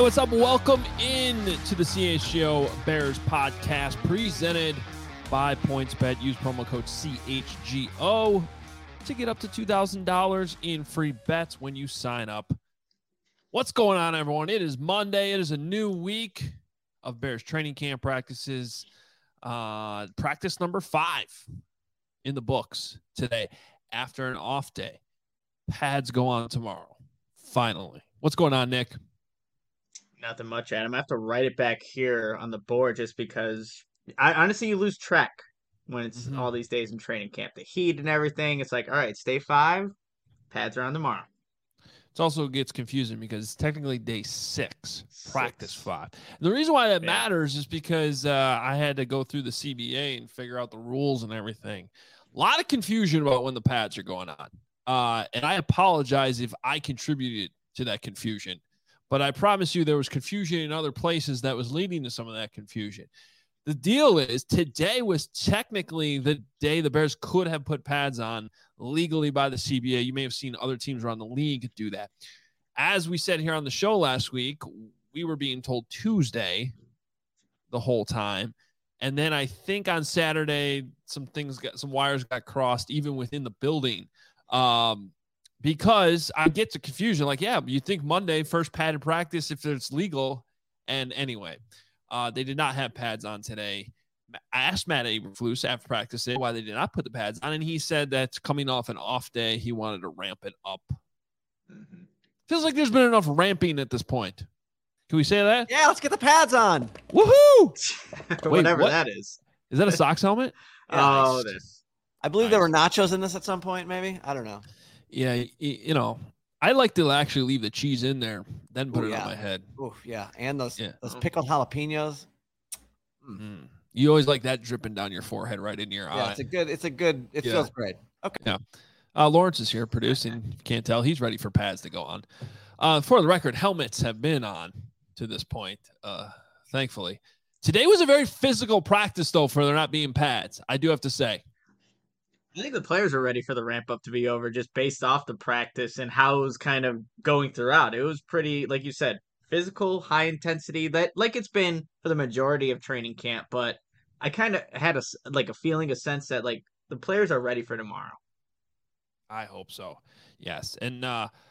what's up? Welcome in to the CHGO Bears podcast presented by PointsBet. Use promo code CHGO to get up to $2,000 in free bets when you sign up. What's going on, everyone? It is Monday. It is a new week of Bears training camp practices. Practice number 5 in the books today after an off day. Pads go on tomorrow. Finally. What's going on, Nick? Nothing much, Adam. I have to write it back here on the board just because I honestly you lose track when it's all these days in training camp. The heat and everything. It's like, all right, it's day 5. Pads are on tomorrow. It also gets confusing because it's technically day 6, practice 5. The reason why that matters is because I had to go through the CBA and figure out the rules and everything. A lot of confusion about when the pads are going on. And I apologize if I contributed to that confusion. But I promise you there was confusion in other places that was leading to some of that confusion. The deal is today was technically the day the Bears could have put pads on legally by the CBA. You may have seen other teams around the league do that. As we said here on the show last week, we were being told Tuesday the whole time. And then I think on Saturday, some wires got crossed even within the building. Because I get to confusion, like, yeah, you think Monday, first padded practice if it's legal. And anyway, they did not have pads on today. I asked Matt Eberflus after practice why they did not put the pads on, and he said that's coming off an off day. He wanted to ramp it up. Mm-hmm. Feels like there's been enough ramping at this point. Can we say that? Yeah, let's get the pads on. Woohoo! Whatever that is. Is that a Sox helmet? Yeah, this. I believe there were nachos in this at some point, maybe. I don't know. Yeah, you know, I like to actually leave the cheese in there, then put it on my head. Ooh, yeah, and those pickled jalapenos. Mm. You always like that dripping down your forehead, right into your eye. It feels great. Okay. Yeah. Lawrence is here producing. You can't tell. He's ready for pads to go on. For the record, helmets have been on to this point, thankfully. Today was a very physical practice, though, for there not being pads. I do have to say. I think the players are ready for the ramp up to be over just based off the practice and how it was kind of going throughout. It was pretty, like you said, physical, high intensity, that like it's been for the majority of training camp. But I kind of had a sense that like the players are ready for tomorrow. I hope so. Yes. And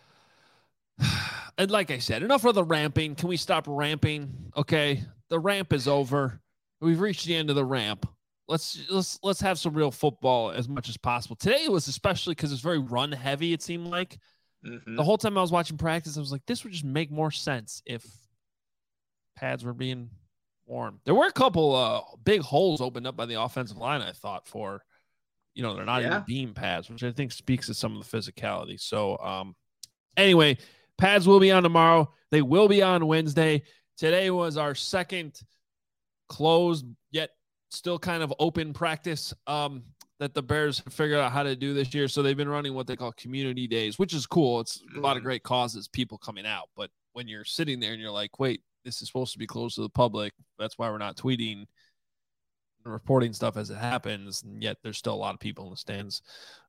like I said, enough of the ramping. Can we stop ramping? Okay. The ramp is over. We've reached the end of the ramp. Let's have some real football as much as possible. Today it was especially because it's very run heavy. It seemed like the whole time I was watching practice, I was like, this would just make more sense if pads were being worn. There were a couple big holes opened up by the offensive line. I thought they're not even beam pads, which I think speaks to some of the physicality. So anyway, pads will be on tomorrow. They will be on Wednesday. Today was our second closed yet still kind of open practice that the Bears have figured out how to do this year. So they've been running what they call community days, which is cool. It's a lot of great causes, people coming out. But when you're sitting there and you're like, wait, this is supposed to be closed to the public. That's why we're not tweeting and reporting stuff as it happens. And yet there's still a lot of people in the stands.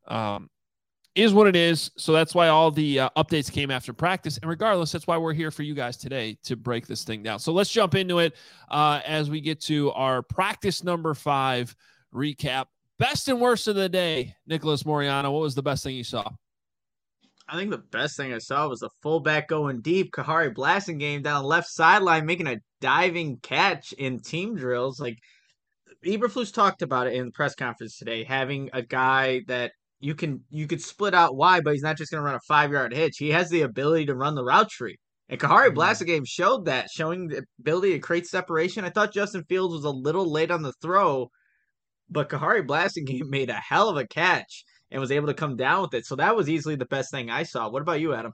Is what it is. So that's why all the updates came after practice. And regardless, that's why we're here for you guys today to break this thing down. So let's jump into it as we get to our practice number 5 recap. Best and worst of the day, Nicholas Moreano. What was the best thing you saw? I think the best thing I saw was the fullback going deep, Kahari Blasingame down the left sideline, making a diving catch in team drills. Like Eberflus talked about it in the press conference today, having a guy that you could split out wide, but he's not just going to run a 5-yard hitch. He has the ability to run the route tree. And Kahari Blasingame showed that, showing the ability to create separation. I thought Justin Fields was a little late on the throw, but Kahari Blasingame made a hell of a catch and was able to come down with it. So that was easily the best thing I saw. What about you, Adam?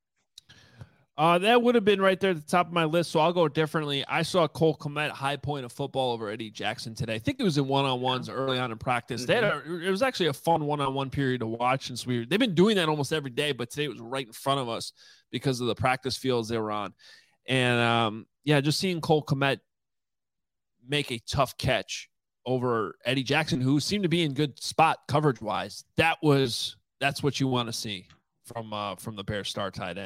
That would have been right there at the top of my list, so I'll go differently. I saw Cole Kmet high point of football over Eddie Jackson today. I think it was in one-on-ones early on in practice. It was actually a fun one-on-one period to watch. Since they've been doing that almost every day, but today it was right in front of us because of the practice fields they were on. And, just seeing Cole Kmet make a tough catch over Eddie Jackson, who seemed to be in good spot coverage-wise, that's what you want to see from the Bears star tight end.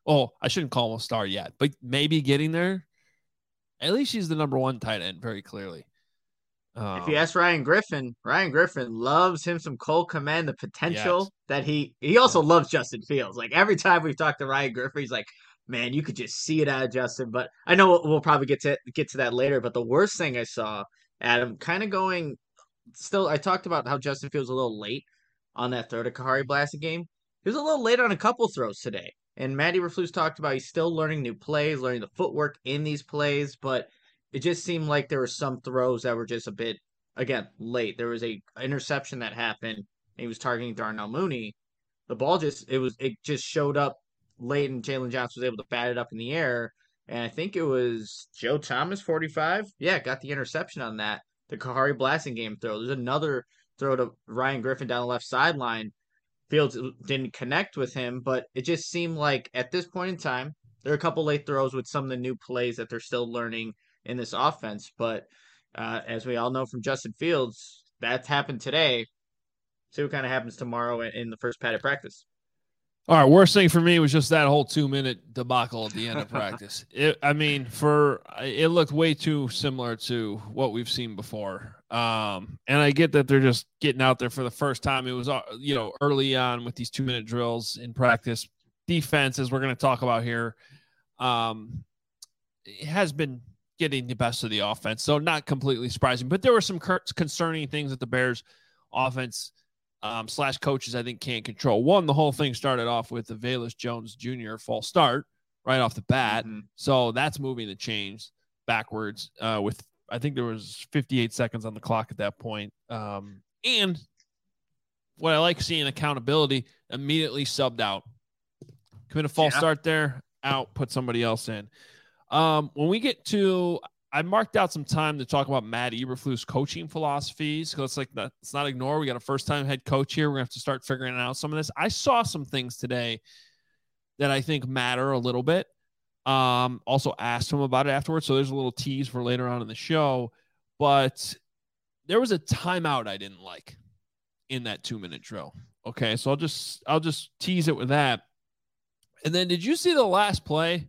Oh, I shouldn't call him a star yet, but maybe getting there. At least he's the number one tight end, very clearly. If you ask Ryan Griffin loves him some Cole Kmet, the potential that he also loves Justin Fields. Like every time we've talked to Ryan Griffin, he's like, man, you could just see it out of Justin. But I know we'll probably get to that later. But the worst thing I saw, Adam, kind of going still, I talked about how Justin Fields was a little late on that throw to Kahari Blasingame. He was a little late on a couple throws today. And Matt Eberflus talked about he's still learning new plays, learning the footwork in these plays, but it just seemed like there were some throws that were just a bit, again, late. There was a interception that happened, and he was targeting Darnell Mooney. The ball it just showed up late, and Jalen Johnson was able to bat it up in the air. And I think it was Joe Thomas, 45. Yeah, got the interception on that. The Kahari Blasingame throw. There's another throw to Ryan Griffin down the left sideline. Fields didn't connect with him, but it just seemed like at this point in time, there are a couple late throws with some of the new plays that they're still learning in this offense. But as we all know from Justin Fields, that's happened today. See what kind of happens tomorrow in the first padded practice. All right, worst thing for me was just that whole 2-minute debacle at the end of practice. It looked way too similar to what we've seen before. And I get that they're just getting out there for the first time. It was, early on with these 2-minute drills in practice. Defense, as we're going to talk about here, it has been getting the best of the offense. So not completely surprising, but there were some concerning things that the Bears offense / coaches, I think, can't control. One, the whole thing started off with the Velus Jones Jr. false start right off the bat. Mm-hmm. So that's moving the chains backwards with, I think there was 58 seconds on the clock at that point. And what I like seeing, accountability, immediately subbed out. Commit a false start there, out, put somebody else in. When we get to, I marked out some time to talk about Matt Eberflus' coaching philosophies. So let's not ignore. We got a first-time head coach here. We're going to have to start figuring out some of this. I saw some things today that I think matter a little bit. Also asked him about it afterwards. So there's a little tease for later on in the show. But there was a timeout I didn't like in that 2-minute drill. Okay, so I'll just tease it with that. And then did you see the last play?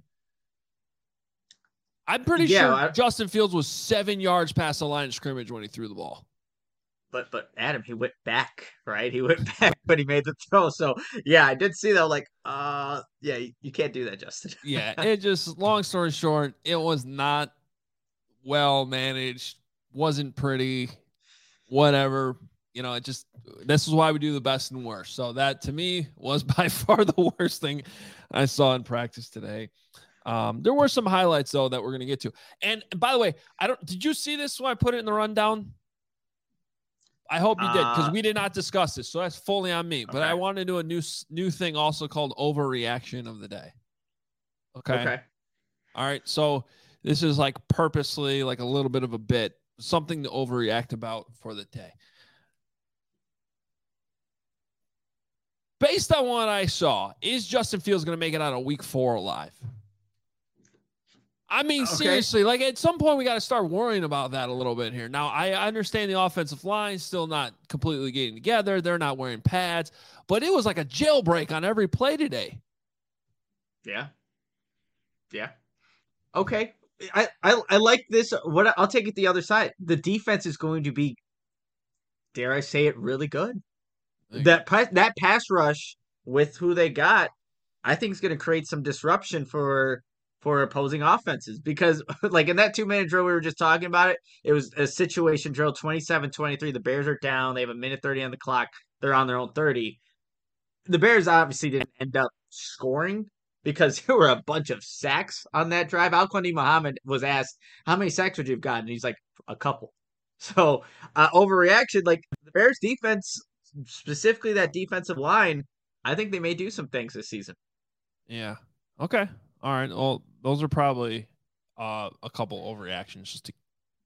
I'm pretty sure Justin Fields was 7 yards past the line of scrimmage when he threw the ball. But Adam, he went back, right? He went back, but he made the throw. So yeah, I did see that. Like, you can't do that, Justin. Yeah, it just, long story short, it was not well managed, wasn't pretty, whatever. This is why we do the best and worst. So that to me was by far the worst thing I saw in practice today. There were some highlights though that we're going to get to. And by the way, did you see this when I put it in the rundown? I hope you did, because we did not discuss this. So that's fully on me, but I want to do a new thing also called overreaction of the day. Okay. All right. So this is like purposely like a little bit of a bit, something to overreact about for the day. Based on what I saw, is Justin Fields going to make it out of week 4 alive? I mean, seriously, like at some point we got to start worrying about that a little bit here. Now, I understand the offensive line still not completely getting together. They're not wearing pads, but it was like a jailbreak on every play today. Yeah. Okay. I like this. I'll take it the other side. The defense is going to be, dare I say it, really good. That pass rush with who they got, I think is going to create some disruption for opposing offenses, because like in that 2-minute drill we were just talking about it was a situation drill, 27-23. The Bears are down. They have 1:30 on the clock. They're on their own 30. The Bears obviously didn't end up scoring because there were a bunch of sacks on that drive. Al-Quadin Muhammad was asked, how many sacks would you have gotten? And he's like, a couple. So overreaction, like the Bears defense, specifically that defensive line, I think they may do some things this season. Yeah. Okay. All right. Well, those are probably a couple overreactions just to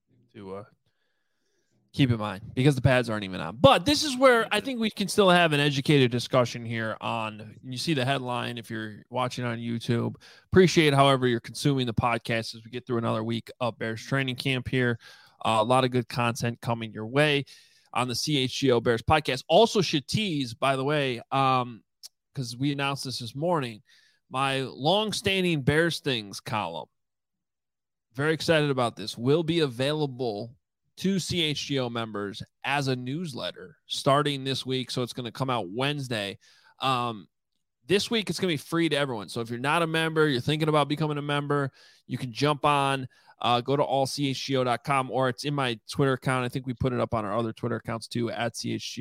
keep in mind, because the pads aren't even on. But this is where I think we can still have an educated discussion here on, you see the headline if you're watching on YouTube. Appreciate however you're consuming the podcast as we get through another week of Bears training camp here. A lot of good content coming your way on the CHGO Bears podcast. Also should tease, by the way, because we announced this morning, My long-standing Bears Things column, very excited about this, will be available to CHGO members as a newsletter starting this week. So it's going to come out Wednesday. This week, it's going to be free to everyone. So if you're not a member, you're thinking about becoming a member, you can jump on, go to allchgo.com, or it's in my Twitter account. I think we put it up on our other Twitter accounts too, at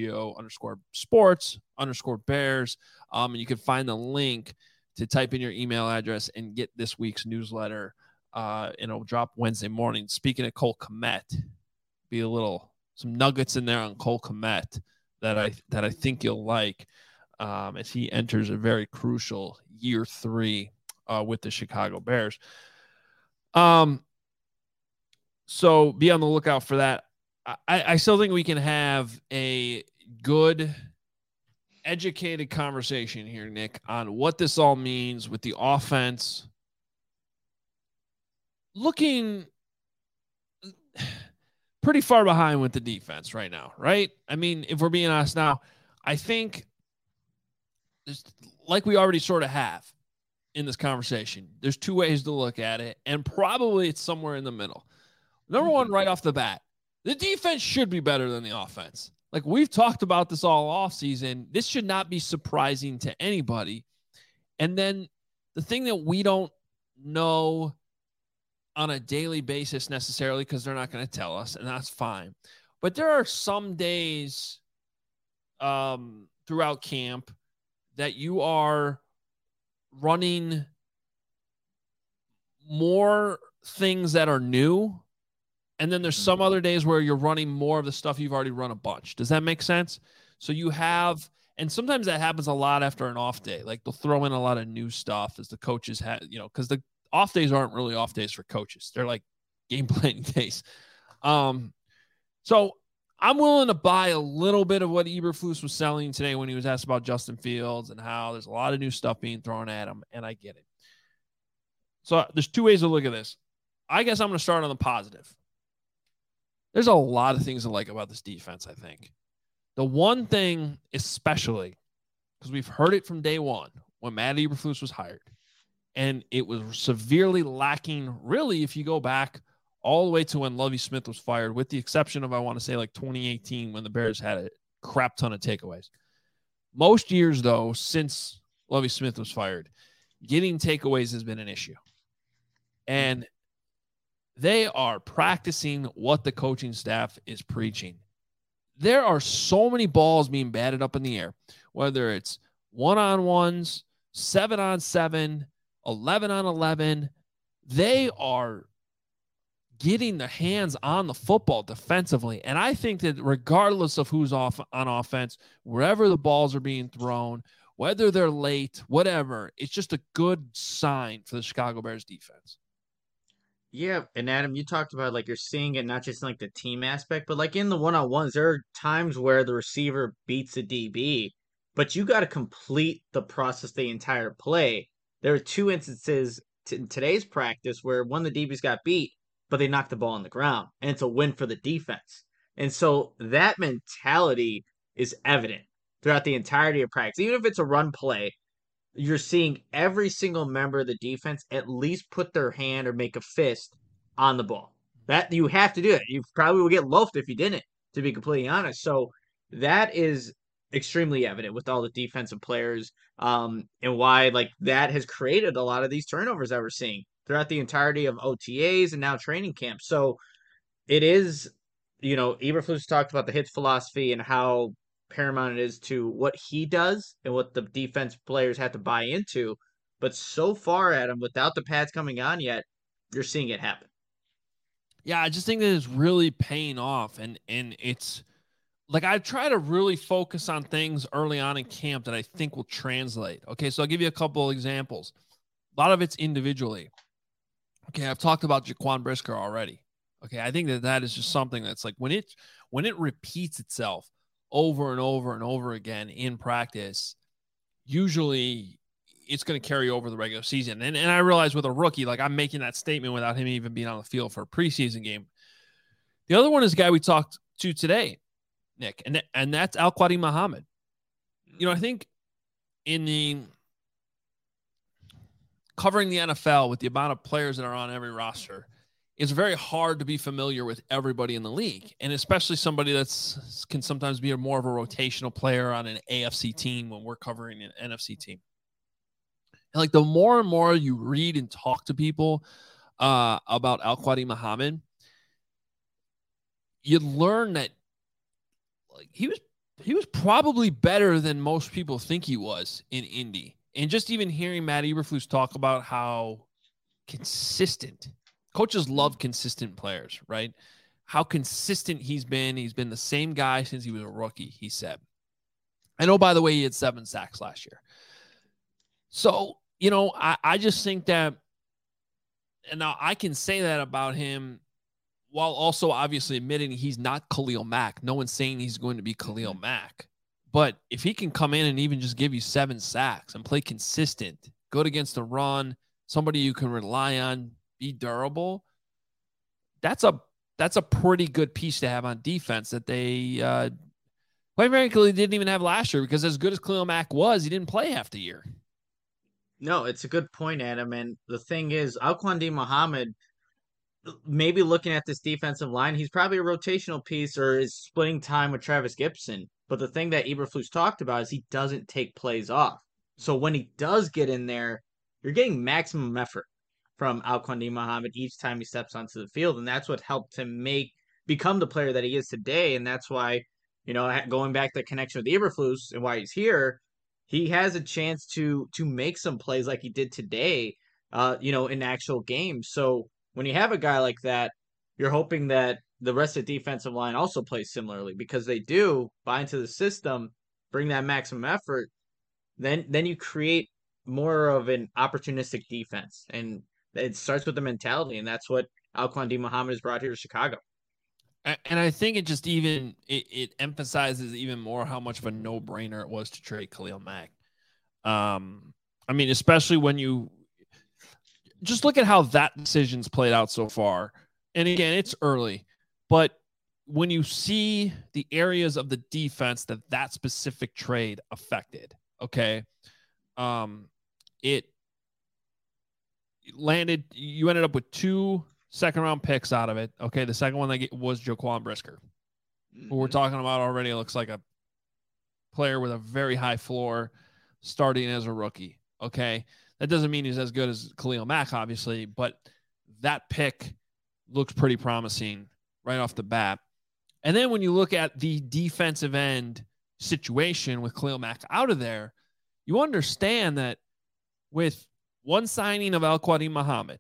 CHGO_sports_Bears. And you can find the link to type in your email address and get this week's newsletter. And it'll drop Wednesday morning. Speaking of Cole Kmet, be some nuggets in there on Cole Kmet that I think you'll like. As he enters a very crucial year 3 with the Chicago Bears. So be on the lookout for that. I still think we can have a good, educated conversation here, Nick, on what this all means with the offense. Looking pretty far behind with the defense right now, right? I mean, if we're being honest now, I think like we already sort of have in this conversation, there's 2 ways to look at it, and probably it's somewhere in the middle. Number one, right off the bat, the defense should be better than the offense. Like we've talked about this all offseason. This should not be surprising to anybody. And then the thing that we don't know on a daily basis necessarily, because they're not going to tell us, and that's fine. But there are some days throughout camp that you are running more things that are new. And then there's some other days where you're running more of the stuff you've already run a bunch. Does that make sense? So you have, and sometimes that happens a lot after an off day. Like they'll throw in a lot of new stuff as the coaches have, because the off days aren't really off days for coaches. They're like game planning days. So I'm willing to buy a little bit of what Eberflus was selling today when he was asked about Justin Fields and how there's a lot of new stuff being thrown at him, and I get it. So there's 2 ways to look at this. I guess I'm going to start on the positive. There's a lot of things to like about this defense, I think. The one thing especially, because we've heard it from day one when Matt Eberflus was hired, and it was severely lacking, really, if you go back all the way to when Lovie Smith was fired, with the exception of, I want to say, like 2018 when the Bears had a crap ton of takeaways. Most years, though, since Lovie Smith was fired, getting takeaways has been an issue. And they are practicing what the coaching staff is preaching. There are so many balls being batted up in the air, whether it's 1-on-1s, 7-on-7, 11-on-11. They are getting their hands on the football defensively. And I think that regardless of who's off on offense, wherever the balls are being thrown, whether they're late, whatever, it's just a good sign for the Chicago Bears defense. Yeah, and Adam, you talked about like you're seeing it not just in like the team aspect, but like in the one-on-ones, there are times where the receiver beats the DB, but you got to complete the process the entire play. There are 2 instances in today's practice where one of the DBs got beat, but they knocked the ball on the ground, and it's a win for the defense. And so that mentality is evident throughout the entirety of practice. Even if it's a run play, you're seeing every single member of the defense at least put their hand or make a fist on the ball. That you have to do it. You probably will get loafed if you didn't, to be completely honest. So that is extremely evident with all the defensive players, and why like that has created a lot of these turnovers that we're seeing throughout the entirety of OTAs and now training camp. So it is, Eberflus talked about the hits philosophy and how paramount it is to what he does and what the defense players have to buy into. But so far, Adam, without the pads coming on yet, you're seeing it happen. Yeah, I just think that it's really paying off. And it's like I try to really focus on things early on in camp that I think will translate. Okay, so I'll give you a couple examples. A lot of it's individually. Okay, I've talked about Jaquan Brisker already. Okay, I think that is just something that's like when it repeats itself over and over and over again in practice, usually it's going to carry over the regular season. And I realize with a rookie, like I'm making that statement without him even being on the field for a preseason game. The other one is a guy we talked to today, Nick, and that's Al-Quadin Muhammad. I think in the covering the NFL with the amount of players that are on every roster, it's very hard to be familiar with everybody in the league. And especially somebody that's can sometimes be more of a rotational player on an AFC team when we're covering an NFC team. And like the more and more you read and talk to people about Al-Quadin Muhammad, you learn that like he was probably better than most people think he was in Indy. And just even hearing Matt Eberflus talk about how consistent coaches love consistent players, right? How consistent he's been. He's been the same guy since he was a rookie, he said. I know, by the way, he had 7 sacks last year. So, you know, I just think that, and now I can say that about him while also obviously admitting he's not Khalil Mack. No one's saying he's going to be Khalil Mack. But if he can come in and even just give you 7 sacks and play consistent, good against the run, somebody you can rely on, be durable, that's a pretty good piece to have on defense that they quite frankly didn't even have last year, because as good as Khalil Mack was, he didn't play half the year. No, it's a good point, Adam. And the thing is, Al-Quadin Muhammad, maybe looking at this defensive line, he's probably a rotational piece or is splitting time with Travis Gibson. But the thing that Eberflus talked about is he doesn't take plays off. So when he does get in there, you're getting maximum effort from Al-Quadin Muhammad each time he steps onto the field. And that's what helped him become the player that he is today. And that's why, you know, going back to the connection with Eberflus and why he's here, he has a chance to make some plays like he did today, you know, in actual games. So when you have a guy like that, you're hoping that the rest of the defensive line also plays similarly, because they do buy into the system, bring that maximum effort. Then you create more of an opportunistic defense, and it starts with the mentality, and that's what Al-Quadin Muhammad has brought here to Chicago. And I think it just even it emphasizes even more how much of a no-brainer it was to trade Khalil Mack. I mean, especially when you just look at how that decision's played out so far. And again, it's early, but when you see the areas of the defense that specific trade affected, okay, it landed, you ended up with 2 second-round picks out of it. Okay, the second one was Jaquan Brisker, who we're talking about already. It looks like a player with a very high floor starting as a rookie, okay? That doesn't mean he's as good as Khalil Mack, obviously, but that pick looks pretty promising right off the bat. And then when you look at the defensive end situation with Khalil Mack out of there, you understand that with one signing of Al-Quadin Muhammad,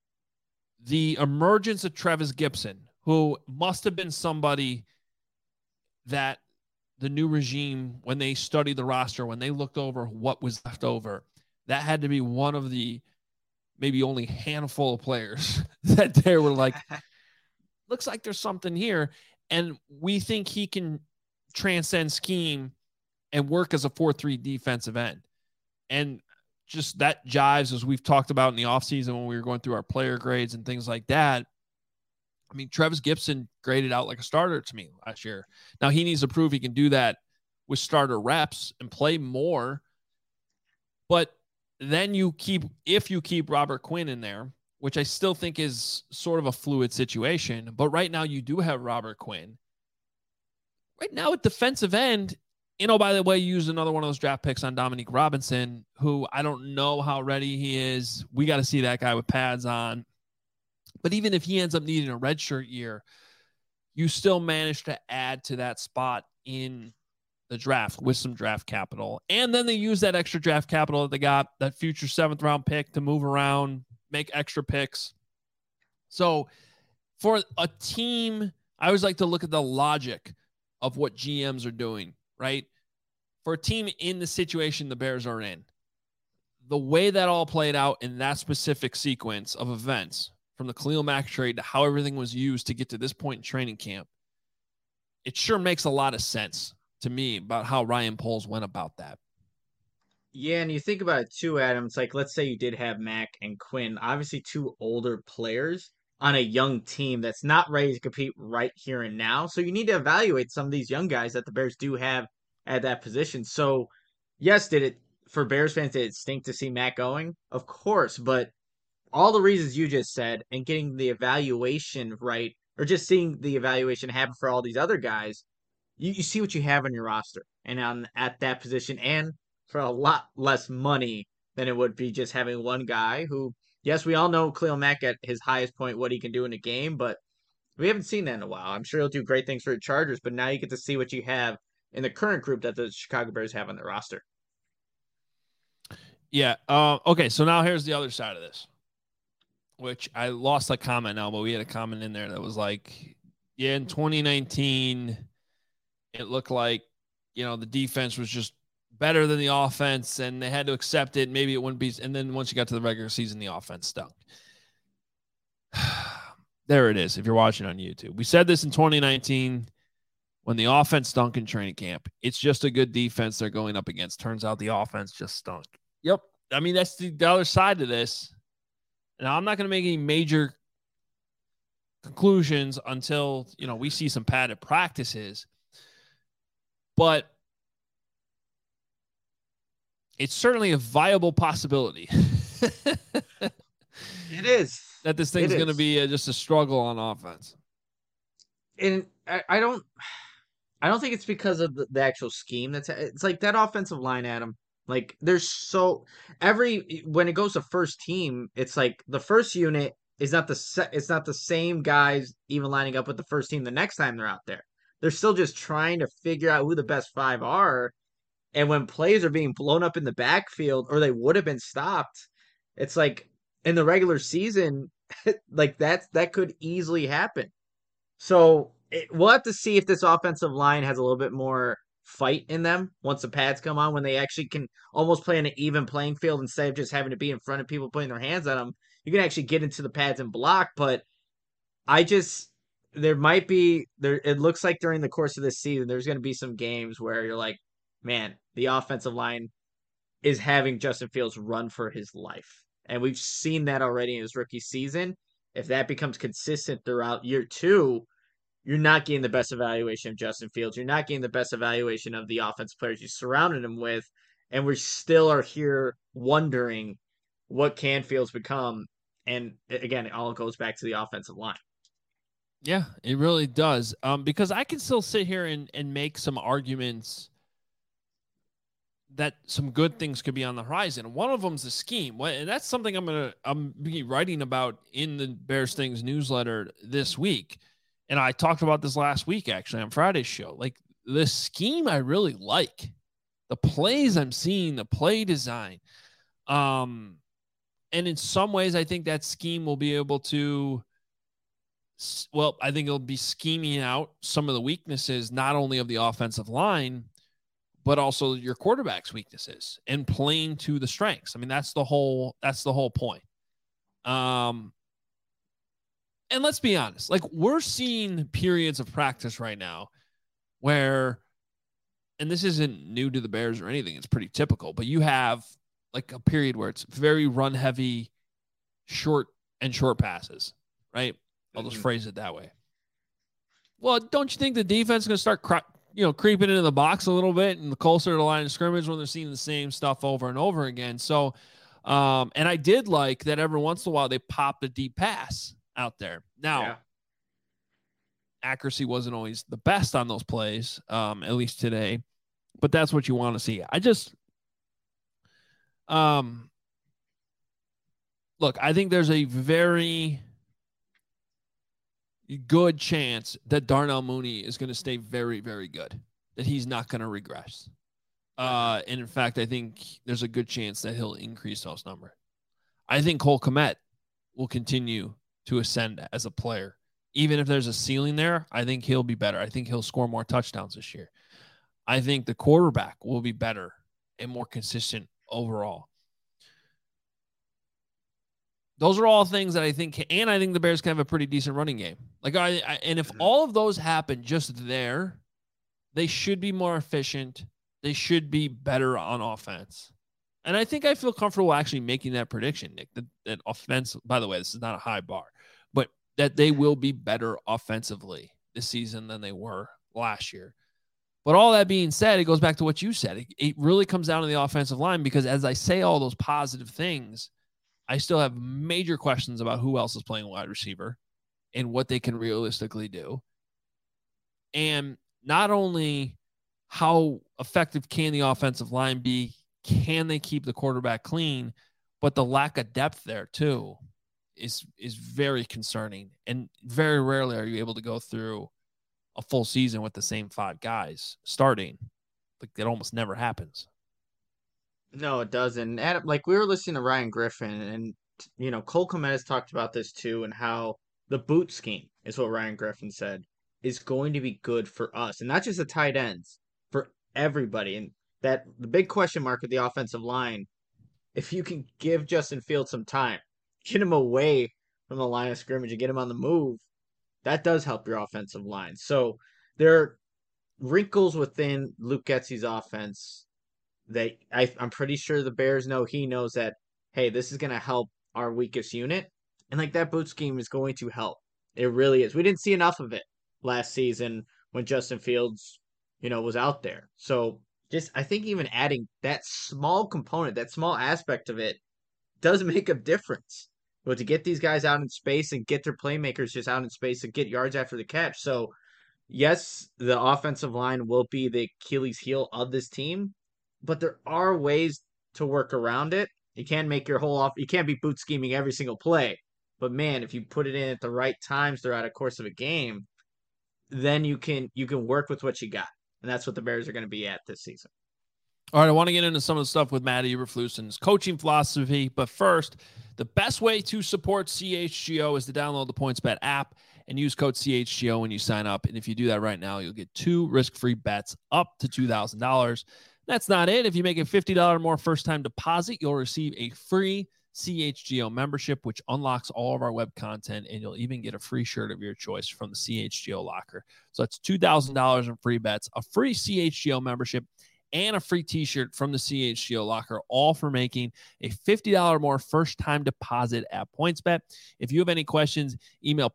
the emergence of Travis Gibson, who must have been somebody that the new regime, when they studied the roster, when they looked over what was left over, that had to be one of the maybe only handful of players that they were like, looks like there's something here. And we think he can transcend scheme and work as a 4-3 defensive end. And just that jives, as we've talked about in the offseason when we were going through our player grades and things like that. I mean, Travis Gibson graded out like a starter to me last year. Now he needs to prove he can do that with starter reps and play more. But then if you keep Robert Quinn in there, which I still think is sort of a fluid situation, but right now you do have Robert Quinn. Right now at defensive end, you know, by the way, you used another one of those draft picks on Dominique Robinson, who I don't know how ready he is. We got to see that guy with pads on. But even if he ends up needing a redshirt year, you still manage to add to that spot in the draft with some draft capital. And then they use that extra draft capital that they got, that future 7th round pick, to move around, make extra picks. So for a team, I always like to look at the logic of what GMs are doing, right? For a team in the situation the Bears are in, the way that all played out in that specific sequence of events, from the Khalil Mack trade to how everything was used to get to this point in training camp, it sure makes a lot of sense to me about how Ryan Poles went about that. Yeah, and you think about it too, Adam. It's like, let's say you did have Mack and Quinn, obviously 2 older players on a young team that's not ready to compete right here and now. So you need to evaluate some of these young guys that the Bears do have at that position. So, yes, did it for Bears fans, did it stink to see Matt going? Of course, but all the reasons you just said and getting the evaluation right, or just seeing the evaluation happen for all these other guys, you see what you have on your roster and at that position, and for a lot less money than it would be just having one guy who, yes, we all know Khalil Mack at his highest point, what he can do in a game, but we haven't seen that in a while. I'm sure he'll do great things for the Chargers, but now you get to see what you have in the current group that the Chicago Bears have on their roster. Yeah. Okay. So now here's the other side of this, which I lost a comment now, but we had a comment in there that was like, yeah, in 2019, it looked like, the defense was just better than the offense and they had to accept it. Maybe it wouldn't be. And then once you got to the regular season, the offense stunk. There it is. If you're watching on YouTube, we said this in 2019 when the offense stunk in training camp. It's just a good defense they're going up against. Turns out the offense just stunk. Yep. I mean, that's the other side to this. Now, I'm not going to make any major conclusions until, we see some padded practices. But it's certainly a viable possibility. It is. That this thing's going to be just a struggle on offense. And I don't think it's because of the actual scheme. It's like that offensive line, Adam. Like when it goes to first team, it's like the first unit is not it's not the same guys even lining up with the first team the next time they're out there. They're still just trying to figure out who the best five are. And when plays are being blown up in the backfield or they would have been stopped, it's like in the regular season, like that could easily happen. So we'll have to see if this offensive line has a little bit more fight in them once the pads come on, when they actually can almost play on an even playing field instead of just having to be in front of people putting their hands on them. You can actually get into the pads and block, but there might be there. It looks like during the course of this season, there's going to be some games where you're like, man, the offensive line is having Justin Fields run for his life. And we've seen that already in his rookie season. If that becomes consistent throughout year two, you're not getting the best evaluation of Justin Fields. You're not getting the best evaluation of the offense players you surrounded him with. And we still are here wondering what can Fields become. And again, it all goes back to the offensive line. Yeah, it really does. Because I can still sit here and make some arguments that some good things could be on the horizon. One of them's the scheme. And that's something I'm be writing about in the Bears Things newsletter this week. And I talked about this last week, actually, on Friday's show. Like, the scheme I really like. The plays I'm seeing, the play design. And in some ways, I think that scheme will be able to, I think it'll be scheming out some of the weaknesses, not only of the offensive line, but also your quarterback's weaknesses and playing to the strengths. I mean, that's the whole point. And let's be honest, like, we're seeing periods of practice right now where, and this isn't new to the Bears or anything, it's pretty typical, but you have like a period where it's very run heavy, short passes, right? I'll just phrase it that way. Well, don't you think the defense is going to start creeping into the box a little bit and closer to the line of scrimmage when they're seeing the same stuff over and over again? So, and I did like that every once in a while they popped a deep pass out there. Now, accuracy wasn't always the best on those plays, at least today, but that's what you want to see. I just, look, I think there's a very good chance that Darnell Mooney is going to stay very, very good, that he's not going to regress. And in fact, I think there's a good chance that he'll increase those numbers. I think Cole Kmet will continue to ascend as a player. Even if there's a ceiling there, I think he'll be better. I think he'll score more touchdowns this year. I think the quarterback will be better and more consistent overall. Those are all things that I think, and I think the Bears can have a pretty decent running game. Like, and if all of those happen just there, they should be more efficient. They should be better on offense. And I think I feel comfortable actually making that prediction, Nick, that offense, by the way, this is not a high bar, but that they will be better offensively this season than they were last year. But all that being said, it goes back to what you said. It really comes down to the offensive line because as I say all those positive things, I still have major questions about who else is playing wide receiver and what they can realistically do. And not only how effective can the offensive line be, can they keep the quarterback clean, but the lack of depth there too is very concerning. And very rarely are you able to go through a full season with the same 5 guys starting. Like that almost never happens. No, it doesn't. Adam, like we were listening to Ryan Griffin, and Cole Kmet has talked about this too, and how the boot scheme is what Ryan Griffin said is going to be good for us, and not just the tight ends, for everybody. And that the big question mark with the offensive line, if you can give Justin Fields some time, get him away from the line of scrimmage and get him on the move, that does help your offensive line. So there are wrinkles within Luke Getsy's offense that I'm pretty sure the Bears know. He knows that, hey, this is going to help our weakest unit. And like that boot scheme is going to help. It really is. We didn't see enough of it last season when Justin Fields, was out there. So just, I think even adding that small component, that small aspect of it does make a difference. But to get these guys out in space and get their playmakers just out in space and get yards after the catch. So yes, the offensive line will be the Achilles heel of this team, but there are ways to work around it. You can't make your whole off. You can't be boot scheming every single play. But man, if you put it in at the right times throughout a course of a game, then you can work with what you got, and that's what the Bears are going to be at this season. All right, I want to get into some of the stuff with Matt Eberflus and his coaching philosophy, but first, the best way to support CHGO is to download the PointsBet app and use code CHGO when you sign up. And if you do that right now, you'll get 2 risk-free bets up to $2,000. That's not it. If you make a $50 or more first-time deposit, you'll receive a free CHGO membership, which unlocks all of our web content, and you'll even get a free shirt of your choice from the CHGO locker. So that's $2,000 in free bets, a free CHGO membership, and a free t-shirt from the CHGO locker, all for making a $50 or more first-time deposit at PointsBet. If you have any questions, email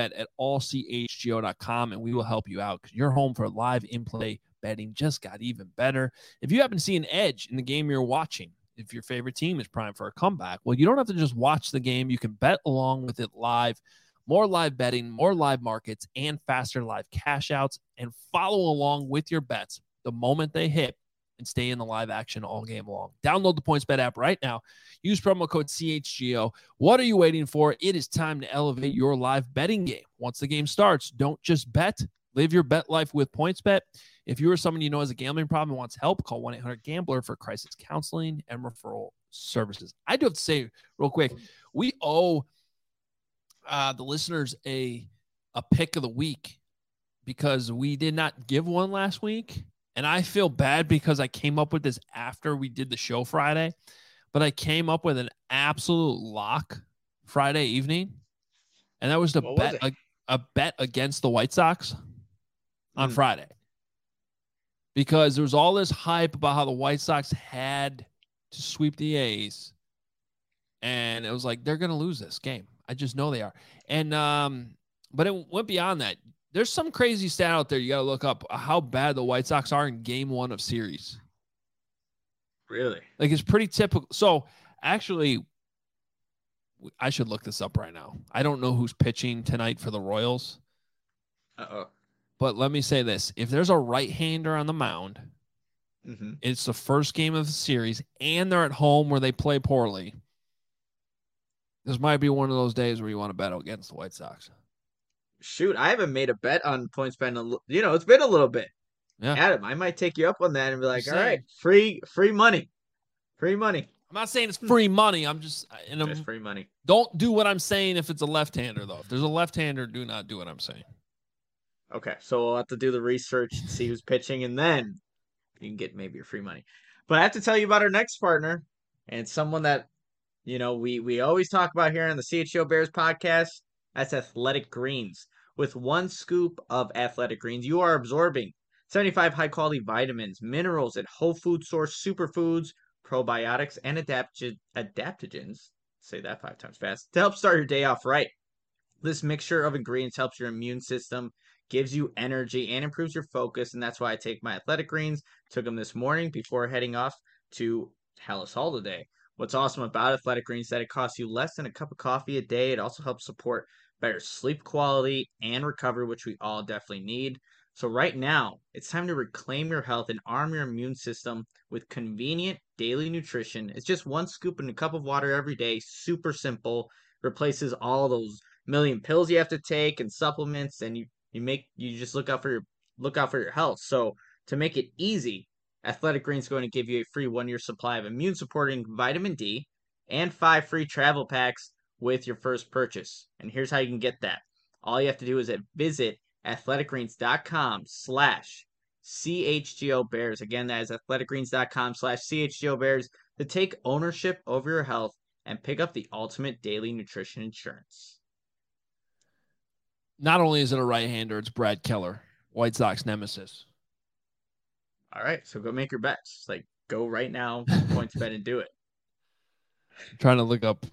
pointsbet@allchgo.com, and we will help you out because your home for live in-play betting just got even better. If you happen to see an edge in the game you're watching, if your favorite team is primed for a comeback, well, you don't have to just watch the game. You can bet along with it live. More live betting, more live markets, and faster live cash outs, and follow along with your bets the moment they hit and stay in the live action all game long. Download the PointsBet app right now. Use promo code CHGO. What are you waiting for? It is time to elevate your live betting game. Once the game starts, don't just bet. Live your bet life with PointsBet. If you or someone you know has a gambling problem and wants help, call 1-800-GAMBLER for crisis counseling and referral services. I do have to say real quick, we owe the listeners a pick of the week because we did not give one last week. And I feel bad because I came up with this after we did the show Friday, but I came up with an absolute lock Friday evening. And that was to a bet against the White Sox on Friday. Because there was all this hype about how the White Sox had to sweep the A's. And it was like, they're going to lose this game. I just know they are. And, but it went beyond that. There's some crazy stat out there you got to look up how bad the White Sox are in game 1 of series. Really? Like, it's pretty typical. So, actually, I should look this up right now. I don't know who's pitching tonight for the Royals. Uh-oh. But let me say this. If there's a right-hander on the mound, it's the first game of the series, and they're at home where they play poorly, this might be one of those days where you want to bet against the White Sox. Shoot, I haven't made a bet on PointsBet. It's been a little bit. Yeah, Adam, I might take you up on that and be like, all right, free money. Free money. I'm not saying it's free money. I'm just it's free money. Don't do what I'm saying if it's a left-hander, though. If there's a left-hander, do not do what I'm saying. Okay, so we'll have to do the research and see who's pitching, and then you can get maybe your free money. But I have to tell you about our next partner, and someone that we always talk about here on the CHGO Bears podcast. That's Athletic Greens. With 1 scoop of Athletic Greens, you are absorbing 75 high-quality vitamins, minerals, and whole food source superfoods, probiotics, and adaptogens. Say that 5 times fast. To help start your day off right. This mixture of ingredients helps your immune system gives you energy, and improves your focus. And that's why I take my Athletic Greens. Took them this morning before heading off to Hallis Hall today. What's awesome about Athletic Greens is that it costs you less than a cup of coffee a day. It also helps support better sleep quality and recovery, which we all definitely need. So right now, it's time to reclaim your health and arm your immune system with convenient daily nutrition. It's just one scoop in a cup of water every day. Super simple. Replaces all those million pills you have to take and supplements, and you just look out for your health. So to make it easy, Athletic Greens is going to give you a free 1 year supply of immune supporting vitamin D and 5 free travel packs with your first purchase. And here's how you can get that. All you have to do is visit athleticgreens.com/CHGO Bears. Again, that is athleticgreens.com/CHGO Bears to take ownership over your health and pick up the ultimate daily nutrition insurance. Not only is it a right-hander, it's Brad Keller, White Sox nemesis. All right, so go make your bets. Like, go right now, points bet, and do it. I'm trying to look up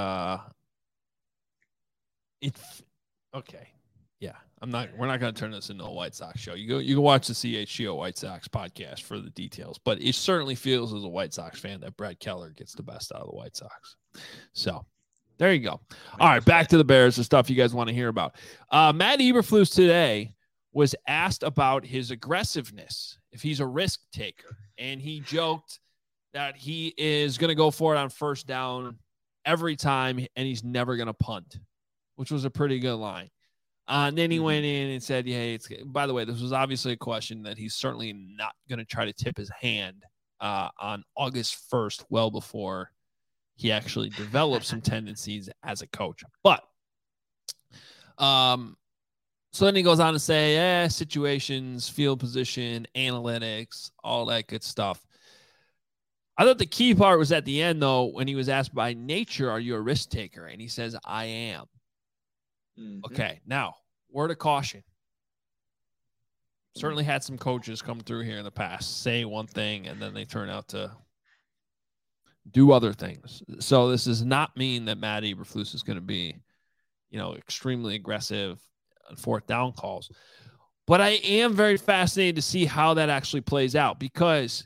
okay. Yeah. We're not going to turn this into a White Sox show. You can watch the CHGO White Sox podcast for the details, but it certainly feels as a White Sox fan that Brad Keller gets the best out of the White Sox. So there you go. All right, back to the Bears, the stuff you guys want to hear about. Matt Eberflus today was asked about his aggressiveness, if he's a risk taker, and he joked that he is going to go for it on first down every time, and he's never going to punt, which was a pretty good line. And then he went in and said, yeah, by the way, this was obviously a question that he's certainly not going to try to tip his hand on August 1st, well before he actually developed some tendencies as a coach. But so then he goes on to say, situations, field position, analytics, all that good stuff. I thought the key part was at the end, though, when he was asked by nature, are you a risk taker? And he says, I am. Okay, now, word of caution. Certainly had some coaches come through here in the past, say one thing, and then they turn out to do other things. So this does not mean that Matt Eberflus is going to be, extremely aggressive on fourth down calls. But I am very fascinated to see how that actually plays out, because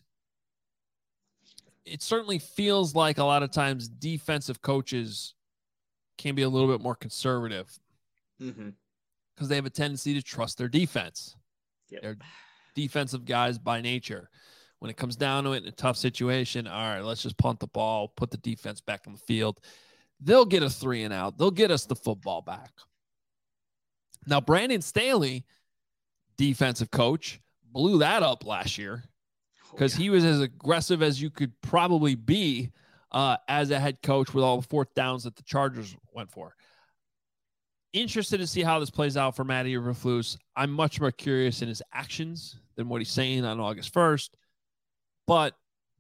it certainly feels like a lot of times defensive coaches can be a little bit more conservative because they have a tendency to trust their defense. Yep. They're defensive guys by nature. When it comes down to it in a tough situation, all right, let's just punt the ball, put the defense back on the field. They'll get a 3 and out. They'll get us the football back. Now, Brandon Staley, defensive coach, blew that up last year because he was as aggressive as you could probably be as a head coach with all the fourth downs that the Chargers went for. Interested to see how this plays out for Matt Eberflus. I'm much more curious in his actions than what he's saying on August 1st. But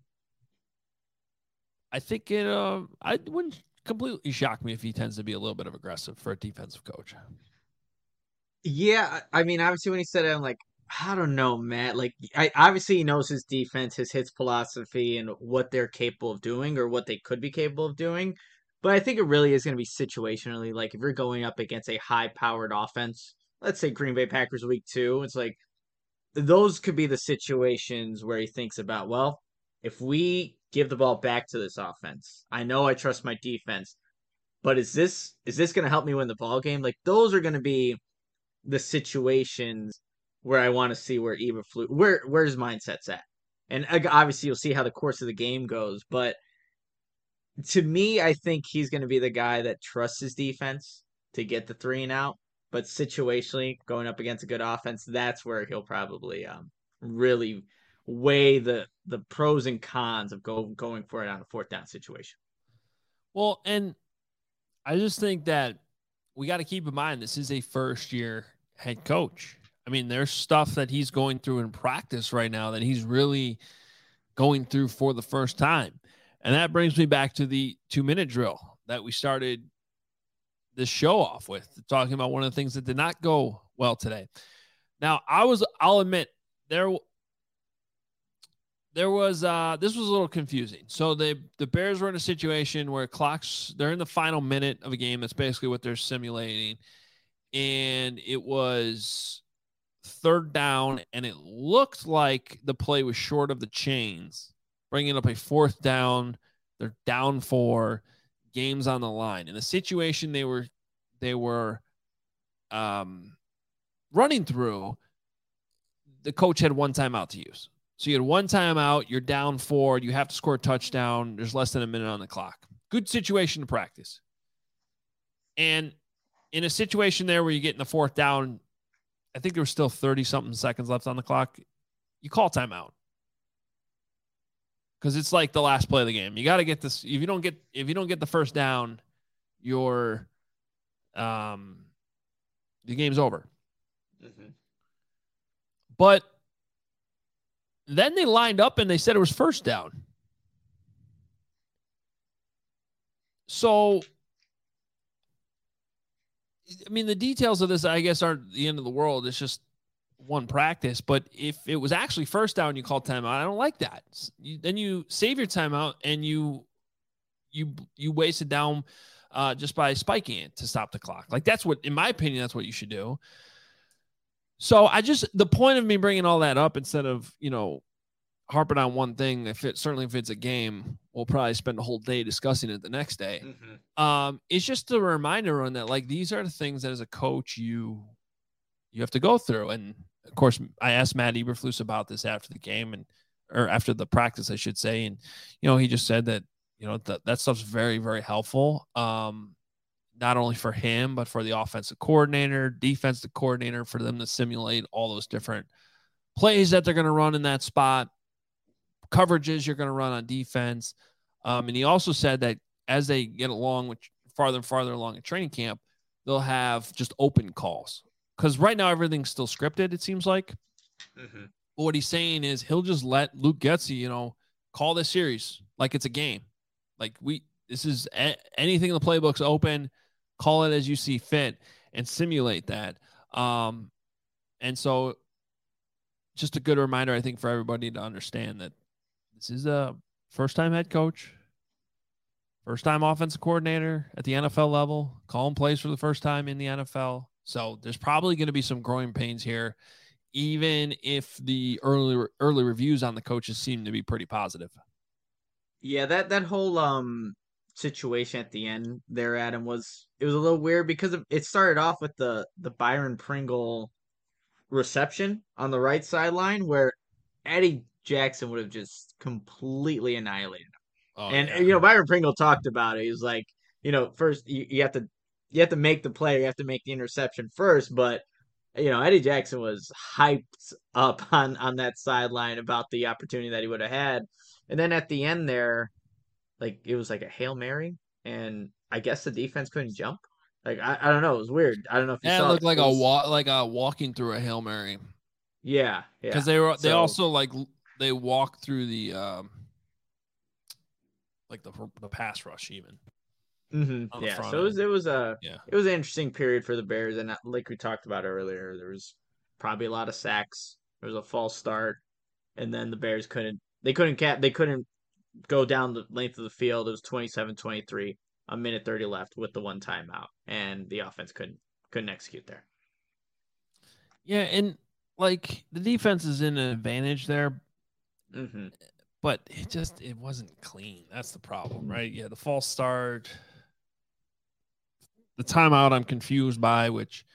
I think I wouldn't completely shock me if he tends to be a little bit of aggressive for a defensive coach. Yeah, I mean, obviously when he said it, I'm like, I don't know, Matt. Like, obviously he knows his defense, his hits philosophy, and what they're capable of doing or what they could be capable of doing. But I think it really is going to be situationally. Like, if you're going up against a high-powered offense, let's say Green Bay Packers week 2, it's like those could be the situations where he thinks about, well, if we give the ball back to this offense, I know I trust my defense, but is this going to help me win the ball game? Like, those are going to be the situations where I want to see where Eberflus, where his mindset's at. And obviously you'll see how the course of the game goes, but to me, I think he's going to be the guy that trusts his defense to get the 3 and out. But situationally, going up against a good offense, that's where he'll probably really weigh the pros and cons of going for it on a fourth down situation. Well, and I just think that we got to keep in mind this is a first-year head coach. I mean, there's stuff that he's going through in practice right now that he's really going through for the first time. And that brings me back to the 2-minute drill that we started this show off with, talking about one of the things that did not go well today. Now, I'll admit, this was a little confusing. So the Bears were in a situation where they're in the final minute of a game. That's basically what they're simulating. And it was third down, and it looked like the play was short of the chains, bringing up a fourth down. They're down 4, games on the line. In the situation they were running through, the coach had one timeout to use. So you had one timeout, you're down 4, you have to score a touchdown, there's less than a minute on the clock. Good situation to practice. And in a situation there where you get in the fourth down, I think there was still 30-something seconds left on the clock, you call timeout. Because it's like the last play of the game. You got to get this. If you don't get the first down, the game's over. Mm-hmm. But then they lined up and they said it was first down. So, I mean, the details of this, I guess, aren't the end of the world. It's just one practice. But if it was actually first down, you call timeout. I don't like that. Then you save your timeout and you waste it down just by spiking it to stop the clock. Like, that's what, in my opinion, that's what you should do. So the point of me bringing all that up, instead of, harping on one thing, if it's a game, we'll probably spend a whole day discussing it the next day. Mm-hmm. It's just a reminder on that, like, these are the things that as a coach, you have to go through. And of course, I asked Matt Eberflus about this after the game or after the practice, I should say. And, he just said that, that stuff's very, very helpful. Not only for him, but for the offensive coordinator, defensive coordinator, for them to simulate all those different plays that they're going to run in that spot, coverages you're going to run on defense. And he also said that as they get along with farther and farther along in training camp, they'll have just open calls. Because right now everything's still scripted, it seems like. Mm-hmm. But what he's saying is he'll just let Luke Getsy, call this series like it's a game. Like, this is anything in the playbook's open. Call it as you see fit and simulate that. And so just a good reminder, I think, for everybody to understand that this is a first-time head coach, first-time offensive coordinator at the NFL level, calling plays for the first time in the NFL. So there's probably going to be some growing pains here, even if the early reviews on the coaches seem to be pretty positive. Yeah, that whole situation at the end there, Adam, was a little weird because it started off with the Byron Pringle reception on the right sideline where Eddie Jackson would have just completely annihilated him. Oh, and yeah. Byron Pringle talked about it. He was like, first you have to make the play, you have to make the interception first, but Eddie Jackson was hyped up on that sideline about the opportunity that he would have had. And then at the end there, like, it was like a Hail Mary, and I guess the defense couldn't jump. Like, I don't know, it was weird. I don't know if you saw it. Looked like a walking through a Hail Mary. Yeah. Because they also they walked through the the pass rush even. Mm-hmm. Yeah. So it was an interesting period for the Bears, and like we talked about earlier, there was probably a lot of sacks. There was a false start, and then the Bears couldn't go down the length of the field. It was 27-23, a minute 30 left with the one timeout, and the offense couldn't execute there. Yeah, and like, the defense is in an advantage there, but it wasn't clean. That's the problem, right? Yeah, the false start, the timeout I'm confused by, which,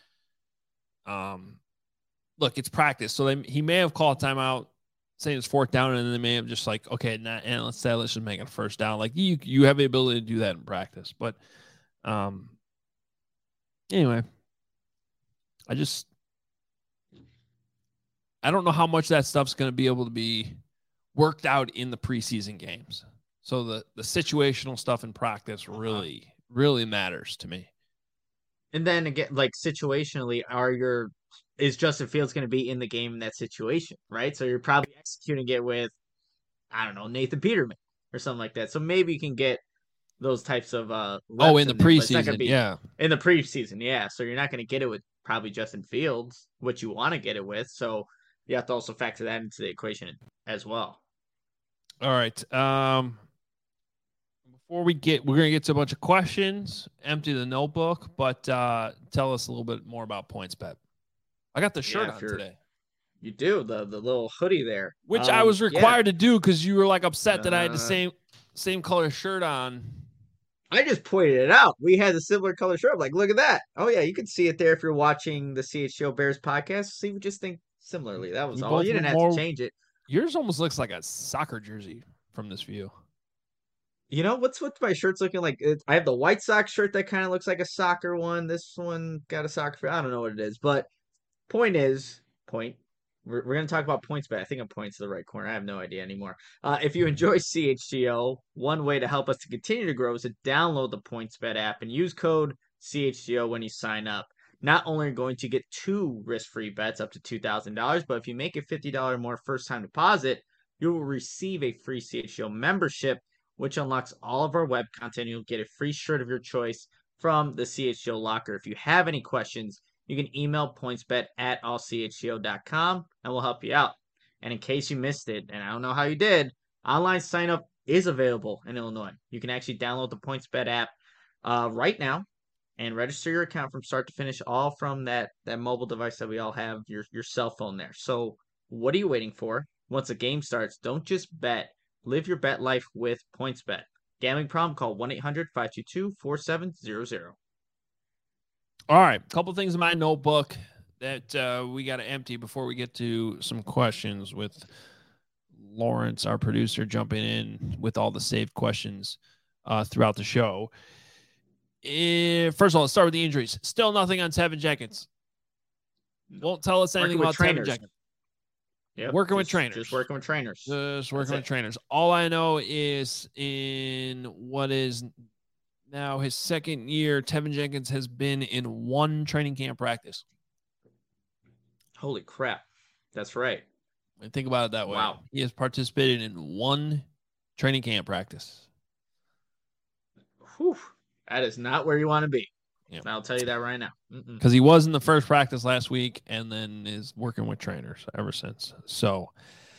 look, it's practice. So he may have called timeout saying it's fourth down, and then they may have just like, okay, and let's just make it a first down. Like, you have the ability to do that in practice. But anyway, I don't know how much that stuff's going to be able to be worked out in the preseason games. So the situational stuff in practice really, really matters to me. And then again, like, situationally, is Justin Fields going to be in the game in that situation, right? So you're probably executing it with, I don't know, Nathan Peterman or something like that. So maybe you can get those types of reps in the preseason, yeah. In the preseason, yeah. So you're not going to get it with probably Justin Fields, what you want to get it with. So you have to also factor that into the equation as well. All right. Before we're going to get to a bunch of questions, empty the notebook, but tell us a little bit more about PointsBet. I got the shirt Yeah, on today. You do the little hoodie there, which I was required to do because you were like upset that I had the same color shirt on. I just pointed it out. We had a similar color shirt. I'm like, look at that. Oh yeah, you can see it there if you're watching the CHGO Bears podcast. See, we just think similarly. That was all. You didn't have to change it. Yours almost looks like a soccer jersey from this view. You know what's my shirt's looking like? I have the White Sox shirt that kind of looks like a soccer one. This one got a soccer. I don't know what it is, but point. We're going to talk about PointsBet. I think I'm points to the right corner. I have no idea anymore. If you enjoy CHGO, one way to help us to continue to grow is to download the PointsBet app and use code CHGO when you sign up. Not only are you going to get 2 risk-free bets up to $2,000, but if you make a $50 or more first-time deposit, you will receive a free CHGO membership, which unlocks all of our web content. You'll get a free shirt of your choice from the CHGO locker. If you have any questions, you can email pointsbet@allchgo.com and we'll help you out. And in case you missed it, and I don't know how you did, online sign up is available in Illinois. You can actually download the PointsBet app right now and register your account from start to finish, all from that mobile device that we all have, your cell phone there. So what are you waiting for? Once the game starts, don't just bet. Live your bet life with PointsBet. Gambling problem? Call 1-800-522-4700. All right, a couple things in my notebook that we got to empty before we get to some questions with Lawrence, our producer, jumping in with all the saved questions throughout the show. First of all, let's start with the injuries. Still nothing on Tevin Jenkins. Won't tell us anything about Tevin Jenkins. Yep, working with trainers. Just working with trainers. Just working with trainers. All I know is in what is now his second year, Tevin Jenkins has been in 1 training camp practice. Holy crap. That's right. And think about it that way. Wow. He has participated in 1 training camp practice. Whew. That is not where you want to be. Yep. I'll tell you that right now. Because he was in the first practice last week and then is working with trainers ever since. So,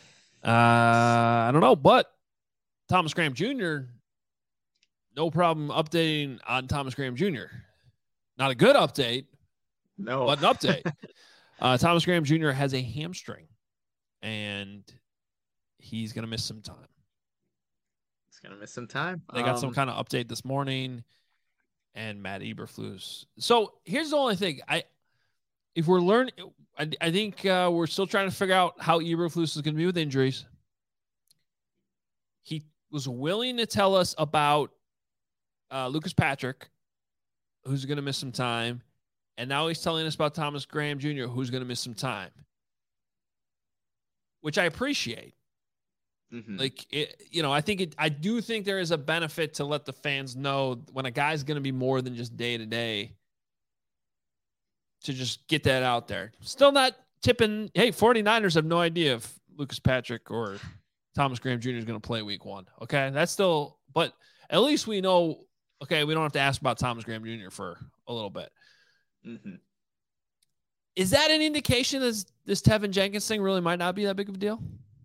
I don't know. But Thomas Graham Jr., no problem updating on Thomas Graham Jr. Not a good update, no, but an update. Thomas Graham Jr. has a hamstring, and he's going to miss some time. He's going to miss some time. They got some kind of update this morning, and Matt Eberflus. So here's the only thing. I think we're still trying to figure out how Eberflus is going to be with injuries. He was willing to tell us about Lucas Patrick, who's going to miss some time. And now he's telling us about Thomas Graham Jr., who's going to miss some time, which I appreciate. Mm-hmm. I do think there is a benefit to let the fans know when a guy's going to be more than just day to day, to just get that out there. Still not tipping. Hey, 49ers have no idea if Lucas Patrick or Thomas Graham Jr. is going to play week 1. Okay. That's still, but at least we know, okay, we don't have to ask about Thomas Graham Jr. for a little bit. Mm-hmm. Is that an indication that this Tevin Jenkins thing really might not be that big of a deal?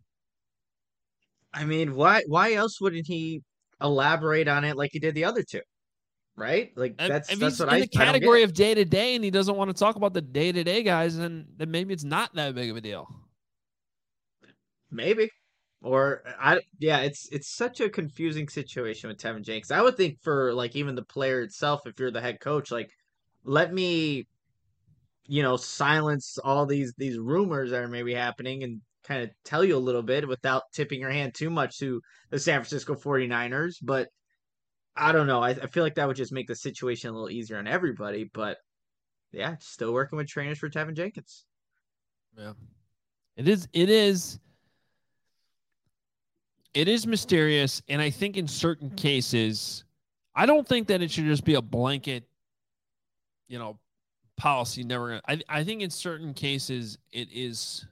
I mean, why else wouldn't he elaborate on it like he did the other 2? Right? Like that's what in the category of day to day, and he doesn't want to talk about the day to day guys, and then maybe it's not that big of a deal. Maybe. Or it's such a confusing situation with Tevin Jenkins. I would think for like even the player itself, if you're the head coach, like let me, silence all these rumors that are maybe happening and kind of tell you a little bit without tipping your hand too much to the San Francisco 49ers. But I don't know. I feel like that would just make the situation a little easier on everybody. But yeah, still working with trainers for Tevin Jenkins. Yeah, it is mysterious, and I think in certain cases, I don't think that it should just be a blanket, policy. Never gonna. I think in certain cases it is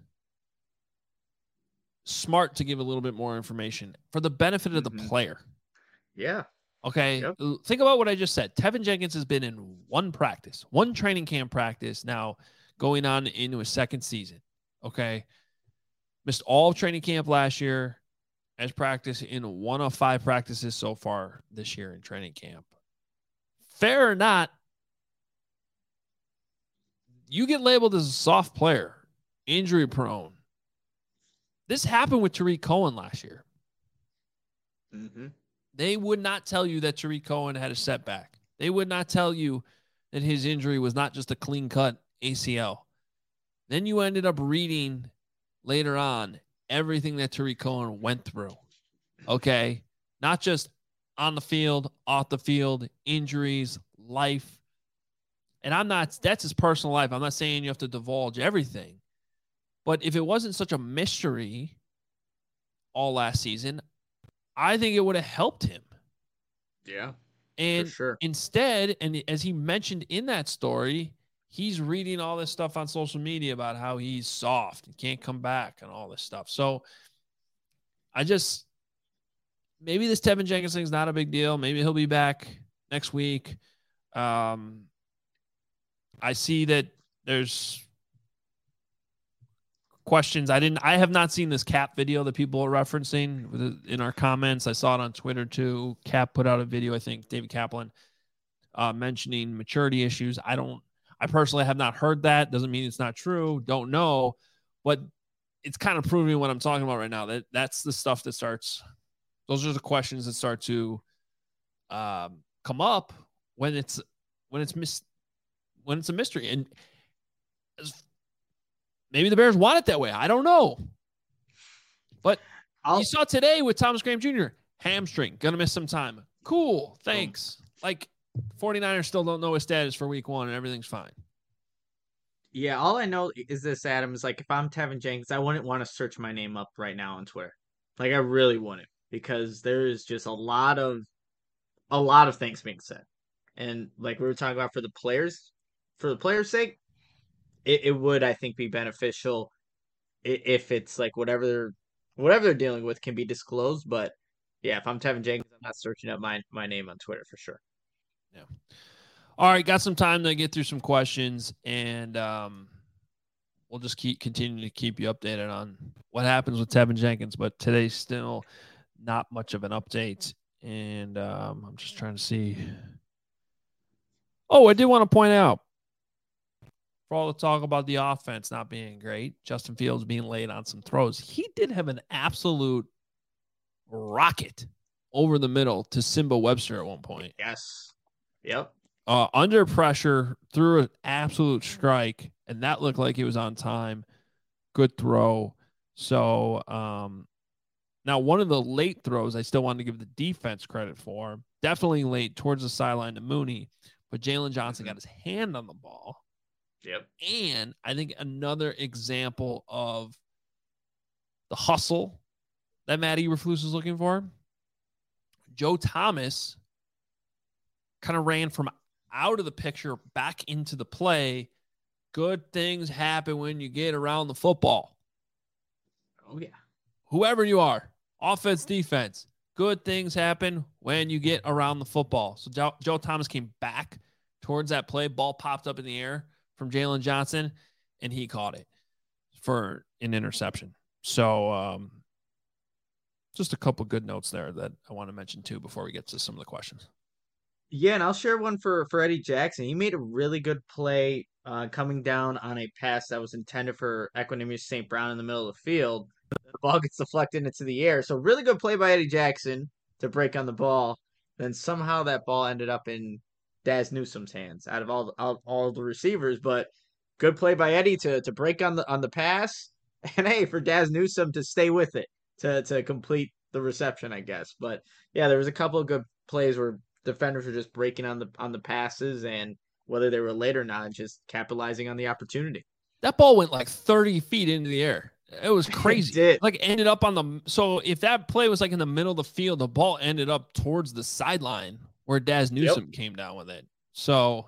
smart to give a little bit more information for the benefit of the player. Yeah. Okay. Yep. Think about what I just said. Tevin Jenkins has been in 1 practice, 1 training camp practice, now going on into his 2nd season. Okay. Missed all of training camp last year. As practice in 1 of 5 practices so far this year in training camp. Fair or not, you get labeled as a soft player, injury prone. This happened with Tariq Cohen last year. Mm-hmm. They would not tell you that Tariq Cohen had a setback. They would not tell you that his injury was not just a clean-cut ACL. Then you ended up reading later on everything that Tariq Cohen went through. Okay? Not just on the field, off the field, injuries, life. And that's his personal life. I'm not saying you have to divulge everything. But if it wasn't such a mystery all last season, I think it would have helped him. Yeah. And for sure. Instead, and as he mentioned in that story, he's reading all this stuff on social media about how he's soft and can't come back and all this stuff. So maybe this Tevin Jenkins thing is not a big deal. Maybe he'll be back next week. I see that there's questions. I have not seen this Cap video that people are referencing in our comments. I saw it on Twitter too. Cap put out a video, I think, David Kaplan, mentioning maturity issues. I personally have not heard that. Doesn't mean it's not true. Don't know. But it's kind of proving what I'm talking about right now. That's the stuff that starts. Those are the questions that start to come up when it's a mystery. And maybe the Bears want it that way. I don't know. But you saw today with Thomas Graham Jr., hamstring, going to miss some time. Cool. Thanks. Like 49ers still don't know his status for week 1 and everything's fine. Yeah, all I know is this, Adam, is like if I'm Tevin Jenkins, I wouldn't want to search my name up right now on Twitter. Like I really wouldn't, because there is just a lot of things being said. And like we were talking about for the players' sake, it would, I think, be beneficial if it's like whatever they're dealing with can be disclosed. But yeah, if I'm Tevin Jenkins, I'm not searching up my name on Twitter for sure. Yeah. All right, got some time to get through some questions, and we'll just continue to keep you updated on what happens with Tevin Jenkins. But today's still not much of an update, and I'm just trying to see. Oh, I did want to point out, for all the talk about the offense not being great, Justin Fields being late on some throws, he did have an absolute rocket over the middle to Simba Webster at one point. Yes. Yep. Under pressure, threw an absolute strike, and that looked like it was on time. Good throw. So now one of the late throws I still wanted to give the defense credit for. Definitely late towards the sideline to Mooney, but Jalen Johnson got his hand on the ball. Yep. And I think another example of the hustle that Matt Eberflus is looking for. Joe Thomas kind of ran from out of the picture back into the play. Good things happen when you get around the football. Oh, yeah. Whoever you are, offense, defense, good things happen when you get around the football. So Joe Thomas came back towards that play. Ball popped up in the air from Jalen Johnson, and he caught it for an interception. So just a couple good notes there that I want to mention too before we get to some of the questions. Yeah, and I'll share one for Eddie Jackson. He made a really good play coming down on a pass that was intended for Equanimeous St. Brown in the middle of the field. The ball gets deflected into the air. So really good play by Eddie Jackson to break on the ball. Then somehow that ball ended up in Daz Newsome's hands out of all the receivers. But good play by Eddie to break on the pass. And hey, for Daz Newsome to stay with it to complete the reception, I guess. But yeah, there was a couple of good plays where defenders were just breaking on the passes, and whether they were late or not, just capitalizing on the opportunity. That ball went like 30 feet into the air. It was crazy. It did. Like ended up on the, so if that play was like in the middle of the field, the ball ended up towards the sideline where Daz Newsome came down with it. So,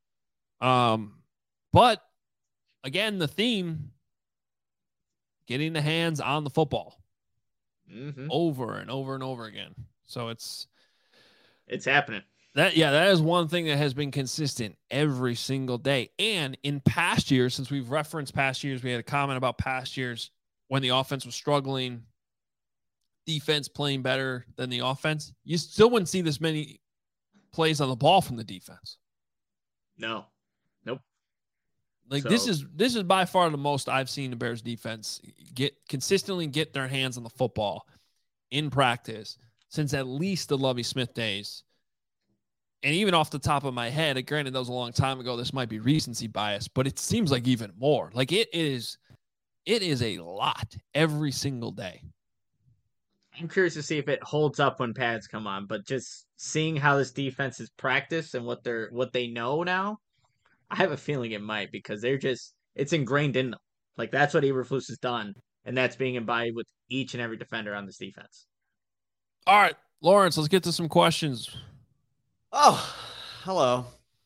but again, the theme, getting the hands on the football over and over and over again. So it's happening. That is one thing that has been consistent every single day. And in past years, since we've referenced past years, we had a comment about past years when the offense was struggling, defense playing better than the offense. You still wouldn't see this many plays on the ball from the defense. No. Nope. Like So- this is by far the most I've seen the Bears defense consistently get their hands on the football in practice since at least the Lovie Smith days. And even off the top of my head, granted that was a long time ago, this might be recency bias, but it seems like even more. Like it is a lot every single day. I'm curious to see if it holds up when pads come on, but just seeing how this defense is practiced and what they know now, I have a feeling it might because it's ingrained in them. Like that's what Eberflus has done, and that's being embodied with each and every defender on this defense. All right, Lawrence, let's get to some questions. Oh, hello.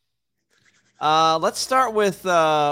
Let's start with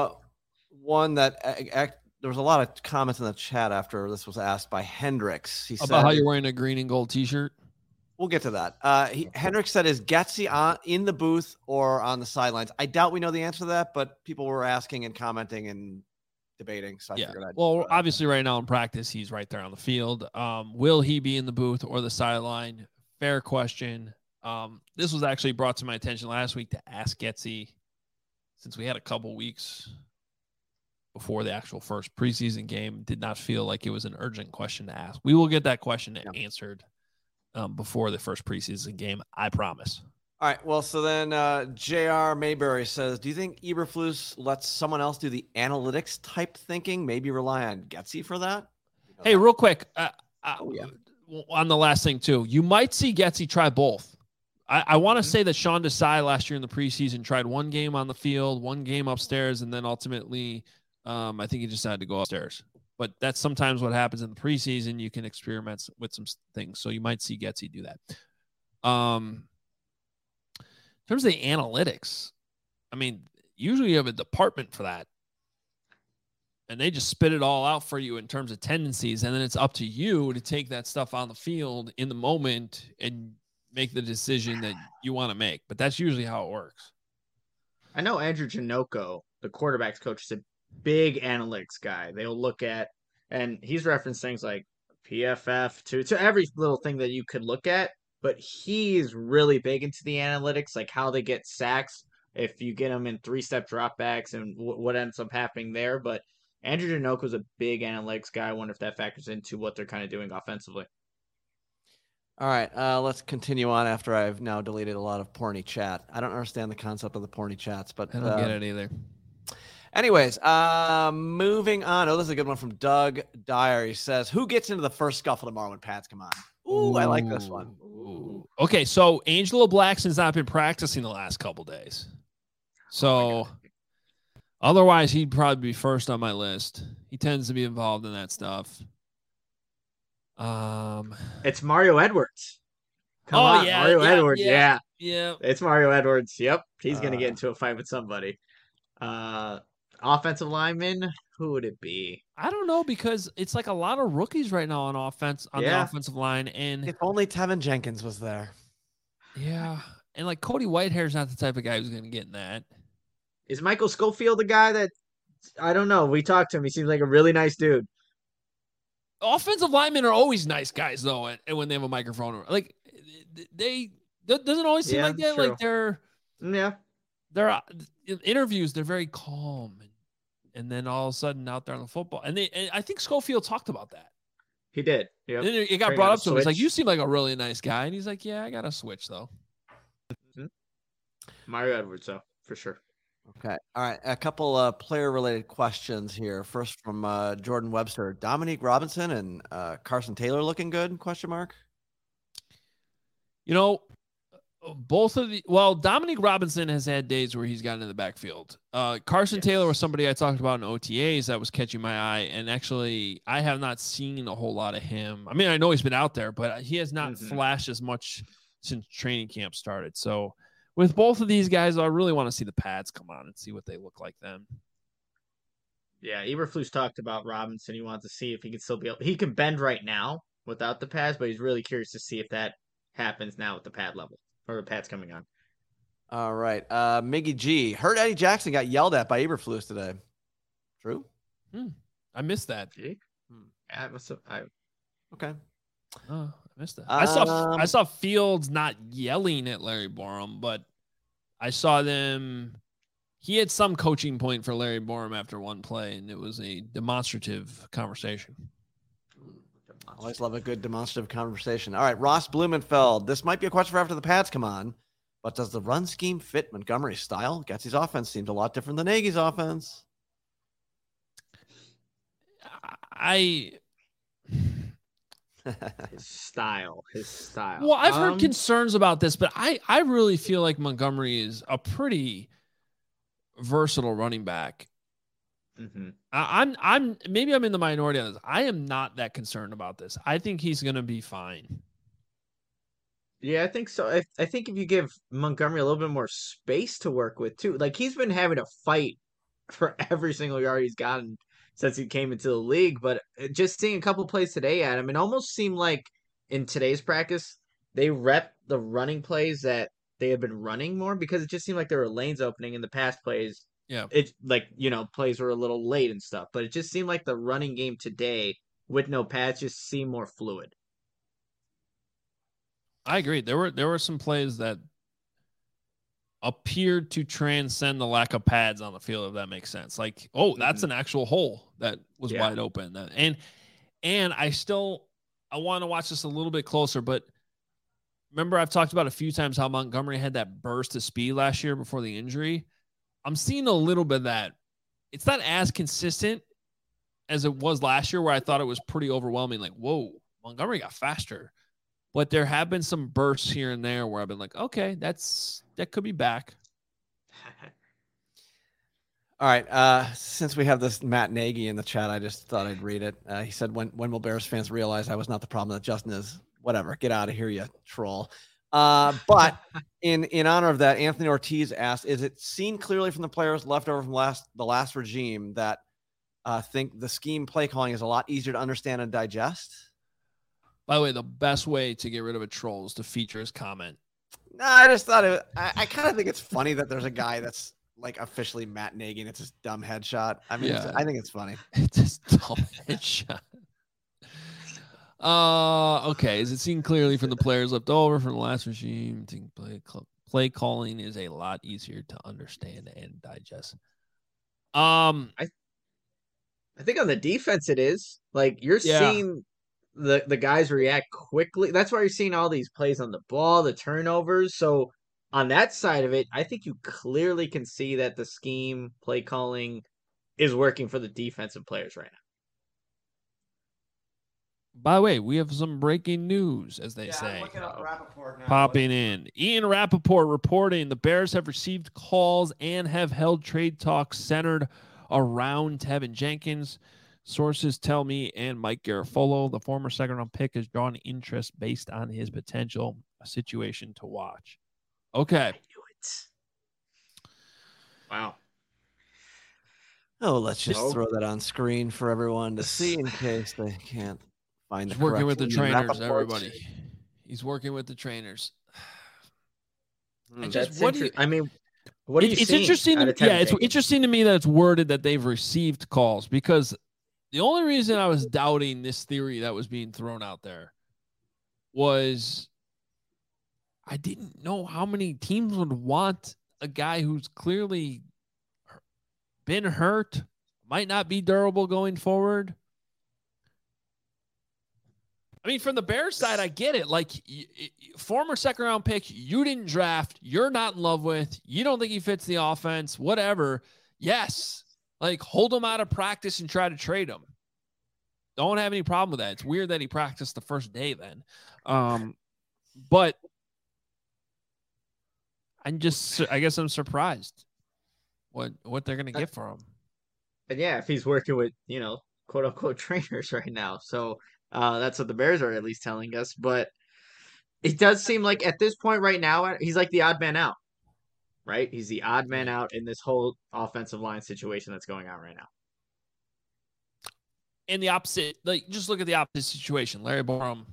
one that there was a lot of comments in the chat after this was asked by Hendricks. He About said, how you're wearing a green and gold T-shirt. We'll get to that. Hendricks said, is Getsy in the booth or on the sidelines? I doubt we know the answer to that, but people were asking and commenting and debating. So I figured I'd well, obviously right now in practice, he's right there on the field. Will he be in the booth or the sideline? Fair question. This was actually brought to my attention last week to ask Getsy, since we had a couple weeks before the actual first preseason game. Did not feel like it was an urgent question to ask. We will get that question answered before the first preseason game, I promise. All right. Well, so then J.R. Mayberry says, do you think Eberflus lets someone else do the analytics type thinking? Maybe rely on Getsy for that? Hey, real quick, on the last thing too, you might see Getsy try both. I want to say that Sean Desai last year in the preseason tried one game on the field, one game upstairs, and then ultimately I think he decided to go upstairs. But that's sometimes what happens in the preseason. You can experiment with some things. So you might see Getsy do that. In terms of the analytics, I mean, usually you have a department for that. And they just spit it all out for you in terms of tendencies. And then it's up to you to take that stuff on the field in the moment and make the decision that you want to make. But that's usually how it works. I know Andrew Janoko, the quarterback's coach, is a big analytics guy. They'll look at, and he's referenced things like PFF to every little thing that you could look at, but he's really big into the analytics, like how they get sacks, if you get them in 3-step dropbacks and what ends up happening there. But Andrew Janoko is a big analytics guy. I wonder if that factors into what they're kind of doing offensively. All right, let's continue on after I've now deleted a lot of porny chat. I don't understand the concept of the porny chats, but I don't get it either. Anyways, moving on. Oh, this is a good one from Doug Dyer. He says, who gets into the first scuffle tomorrow when pads come on? Ooh, I like this one. Ooh. Okay, so Angelo Blackson's not been practicing the last couple days. So otherwise, he'd probably be first on my list. He tends to be involved in that stuff. It's Mario Edwards. Come on, Mario Edwards. Yeah. It's Mario Edwards. Yep. He's going to get into a fight with somebody. Offensive lineman, who would it be? I don't know, because it's like a lot of rookies right now on offense, on the offensive line. And if only Tevin Jenkins was there. Yeah. And like Cody Whitehair's not the type of guy who's going to get in that. Is Michael Schofield the guy that, I don't know. We talked to him. He seems like a really nice dude. Offensive linemen are always nice guys, though, and when they have a microphone. Like, doesn't always seem like that. True. Like they're in interviews, they're very calm, and then all of a sudden out there on the football, and I think Schofield talked about that. He did. Yeah. Then it got brought up to him. It's like, you seem like a really nice guy, and he's like, yeah, I got to switch though. Mario Edwards, though, for sure. Okay. All right. A couple player-related questions here. First from Jordan Webster. Dominique Robinson and Carson Taylor looking good? Question mark. You know, Dominique Robinson has had days where he's gotten in the backfield. Carson Taylor was somebody I talked about in OTAs that was catching my eye, and actually I have not seen a whole lot of him. I mean, I know he's been out there, but he has not flashed as much since training camp started. So with both of these guys, I really want to see the pads come on and see what they look like then. Yeah, Eberflus talked about Robinson. He wants to see if he can still be able. He can bend right now without the pads, but he's really curious to see if that happens now with the pad level or the pads coming on. All right, Miggy G. Heard Eddie Jackson got yelled at by Eberflus today. True? I missed that. Okay. Oh, I missed that. I saw Fields not yelling at Larry Borum, but I saw them he had some coaching point for Larry Borom after one play, and it was a demonstrative conversation. Always love a good demonstrative conversation. All right, Ross Blumenfeld. This might be a question for after the pads come on, but does the run scheme fit Montgomery's style? Getsy's offense seems a lot different than Nagy's offense. His style. Well, I've heard concerns about this, but I really feel like Montgomery is a pretty versatile running back. Mm-hmm. I'm maybe I'm in the minority on this. I am not that concerned about this. I think he's going to be fine. Yeah, I think so. I think if you give Montgomery a little bit more space to work with too, like he's been having to fight for every single yard he's gotten since he came into the league. But just seeing a couple plays today at him, it almost seemed like in today's practice they rep the running plays that they had been running more because it just seemed like there were lanes opening in the past plays. Yeah, it like plays were a little late and stuff, but it just seemed like the running game today with no pads just seemed more fluid. I agree. There were some plays that appeared to transcend the lack of pads on the field, if that makes sense. Like, oh, that's an actual hole that was wide open. And I want to watch this a little bit closer, but remember I've talked about a few times how Montgomery had that burst of speed last year before the injury. I'm seeing a little bit of that. It's not as consistent as it was last year where I thought it was pretty overwhelming. Like, whoa, Montgomery got faster. But there have been some bursts here and there where I've been like, okay, that could be back. All right. Since we have this Matt Nagy in the chat, I just thought I'd read it. He said, when will Bears fans realize I was not the problem that Justin is? Whatever. Get out of here, you troll. But in honor of that, Anthony Ortiz asked, is it seen clearly from the players left over from the last regime that think the scheme play calling is a lot easier to understand and digest? By the way, the best way to get rid of a troll is to feature his comment. No, I just thought I kind of think it's funny that there's a guy that's like officially Matt Nagy and it's his dumb headshot. I mean, I think it's funny. It's his dumb headshot. Okay. Is it seen clearly from the players left over from the last regime? Play calling is a lot easier to understand and digest. I think on the defense it is. Like you're seeing the guys react quickly. That's why you're seeing all these plays on the ball, the turnovers. So on that side of it, I think you clearly can see that the scheme play calling is working for the defensive players right now. By the way, we have some breaking news, as they say. I'm looking up Rappaport now. Popping in. Ian Rappaport reporting the Bears have received calls and have held trade talks centered around Tevin Jenkins. Sources tell me and Mike Garafolo, the former second-round pick, has drawn interest based on his potential, a situation to watch. Okay. I knew it. Wow. Oh, let's just throw that on screen for everyone to see in case they can't find the correct working with the trainers, Rappaport. everybody. He's working with the trainers. What are you it's seeing interesting. It's interesting to me that it's worded that they've received calls, because the only reason I was doubting this theory that was being thrown out there was I didn't know how many teams would want a guy who's clearly been hurt, might not be durable going forward. I mean, from the Bears side, I get it. Like, former second-round pick, you didn't draft, you're not in love with, you don't think he fits the offense, whatever. Yes. Like, hold him out of practice and try to trade him. Don't have any problem with that. It's weird that he practiced the first day then. But I guess I'm surprised what they're going to get for him. And yeah, if he's working with, quote unquote trainers right now. So that's what the Bears are at least telling us. But it does seem like at this point right now, he's like the odd man out, right? He's the odd man out in this whole offensive line situation that's going on right now. And the opposite, like, just look at the opposite situation. Larry Borom.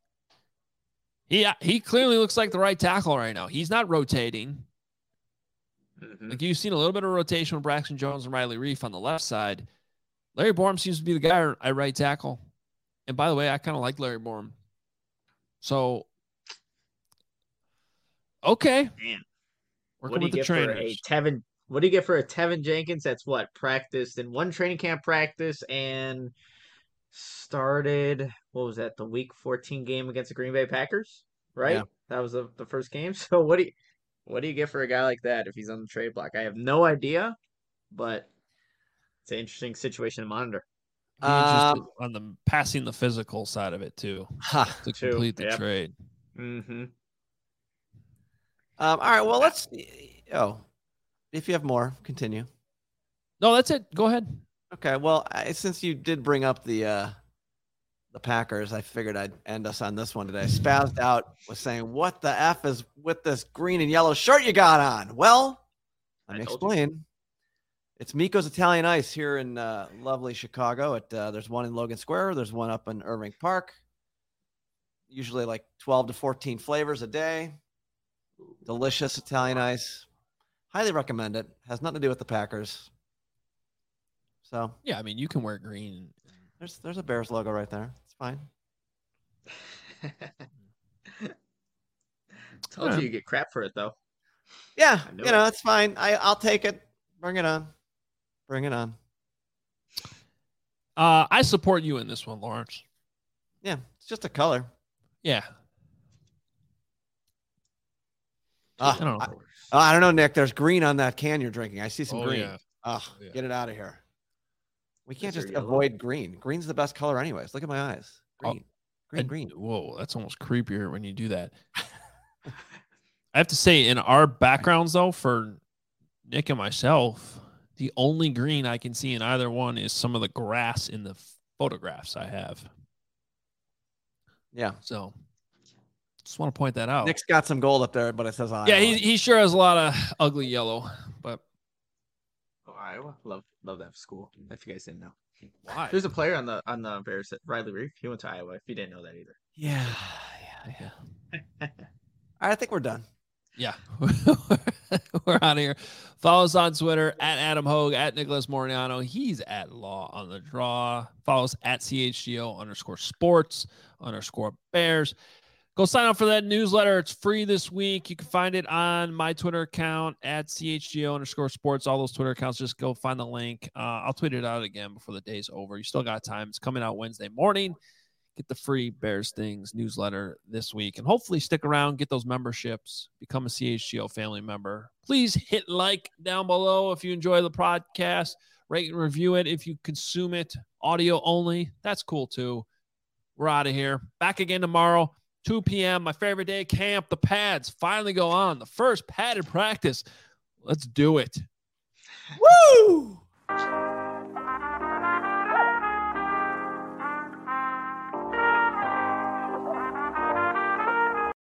He clearly looks like the right tackle right now. He's not rotating. Mm-hmm. Like, you've seen a little bit of rotation with Braxton Jones and Riley Reif on the left side. Larry Borom seems to be the guy at right tackle. And by the way, I kind of like Larry Borom. So, okay. Man, working with the trainers. For a What do you get for a Tevin Jenkins that's practiced in one training camp practice and started, what was that, the week 14 game against the Green Bay Packers, right? Yeah. That was the first game. So what do you get for a guy like that if he's on the trade block? I have no idea, but it's an interesting situation to monitor. Be interested on the passing the physical side of it too to complete the trade. Mm-hmm. All right. Well, let's. Oh, if you have more, continue. No, that's it. Go ahead. Okay. Well, since you did bring up the Packers, I figured I'd end us on this one today. Spazzed out was saying, "What the f is with this green and yellow shirt you got on?" Well, let me explain. It's Miko's Italian Ice here in lovely Chicago. There's one in Logan Square. There's one up in Irving Park. Usually like 12 to 14 flavors a day. Delicious Italian Ice. Highly recommend it. Has nothing to do with the Packers. So yeah, I mean, you can wear green. There's a Bears logo right there. It's fine. Told you get crap for it though. Yeah, it's fine. I'll take it. Bring it on. Bring it on. I support you in this one, Lawrence. Yeah, it's just a color. Yeah. I don't know, Nick. There's green on that can you're drinking. I see some green. Yeah. Get it out of here. We can't just avoid green. Green's the best color anyways. Look at my eyes. Green. Whoa, that's almost creepier when you do that. I have to say, in our backgrounds, though, for Nick and myself, the only green I can see in either one is some of the grass in the photographs I have. Yeah. So just want to point that out. Nick's got some gold up there, but it says Iowa. Yeah, he sure has a lot of ugly yellow, but Iowa, love that school. If you guys didn't know, why? There's a player on the Bears, Riley Reef. He went to Iowa. If you didn't know that either. Yeah. All right, I think we're done. Yeah, we're out of here. Follow us on Twitter at Adam Hogue, at Nicholas Moriano. He's at Law on the Draw. Follow us at CHGO_sports_Bears. Go sign up for that newsletter. It's free this week. You can find it on my Twitter account at CHGO_sports. All those Twitter accounts, just go find the link. I'll tweet it out again before the day's over. You still got time. It's coming out Wednesday morning. Get the free Bears Things newsletter this week. And hopefully stick around, get those memberships, become a CHGO family member. Please hit like down below if you enjoy the podcast. Rate and review it if you consume it audio only. That's cool too. We're out of here. Back again tomorrow, 2 p.m. My favorite day of camp. The pads finally go on. The first padded practice. Let's do it. Woo!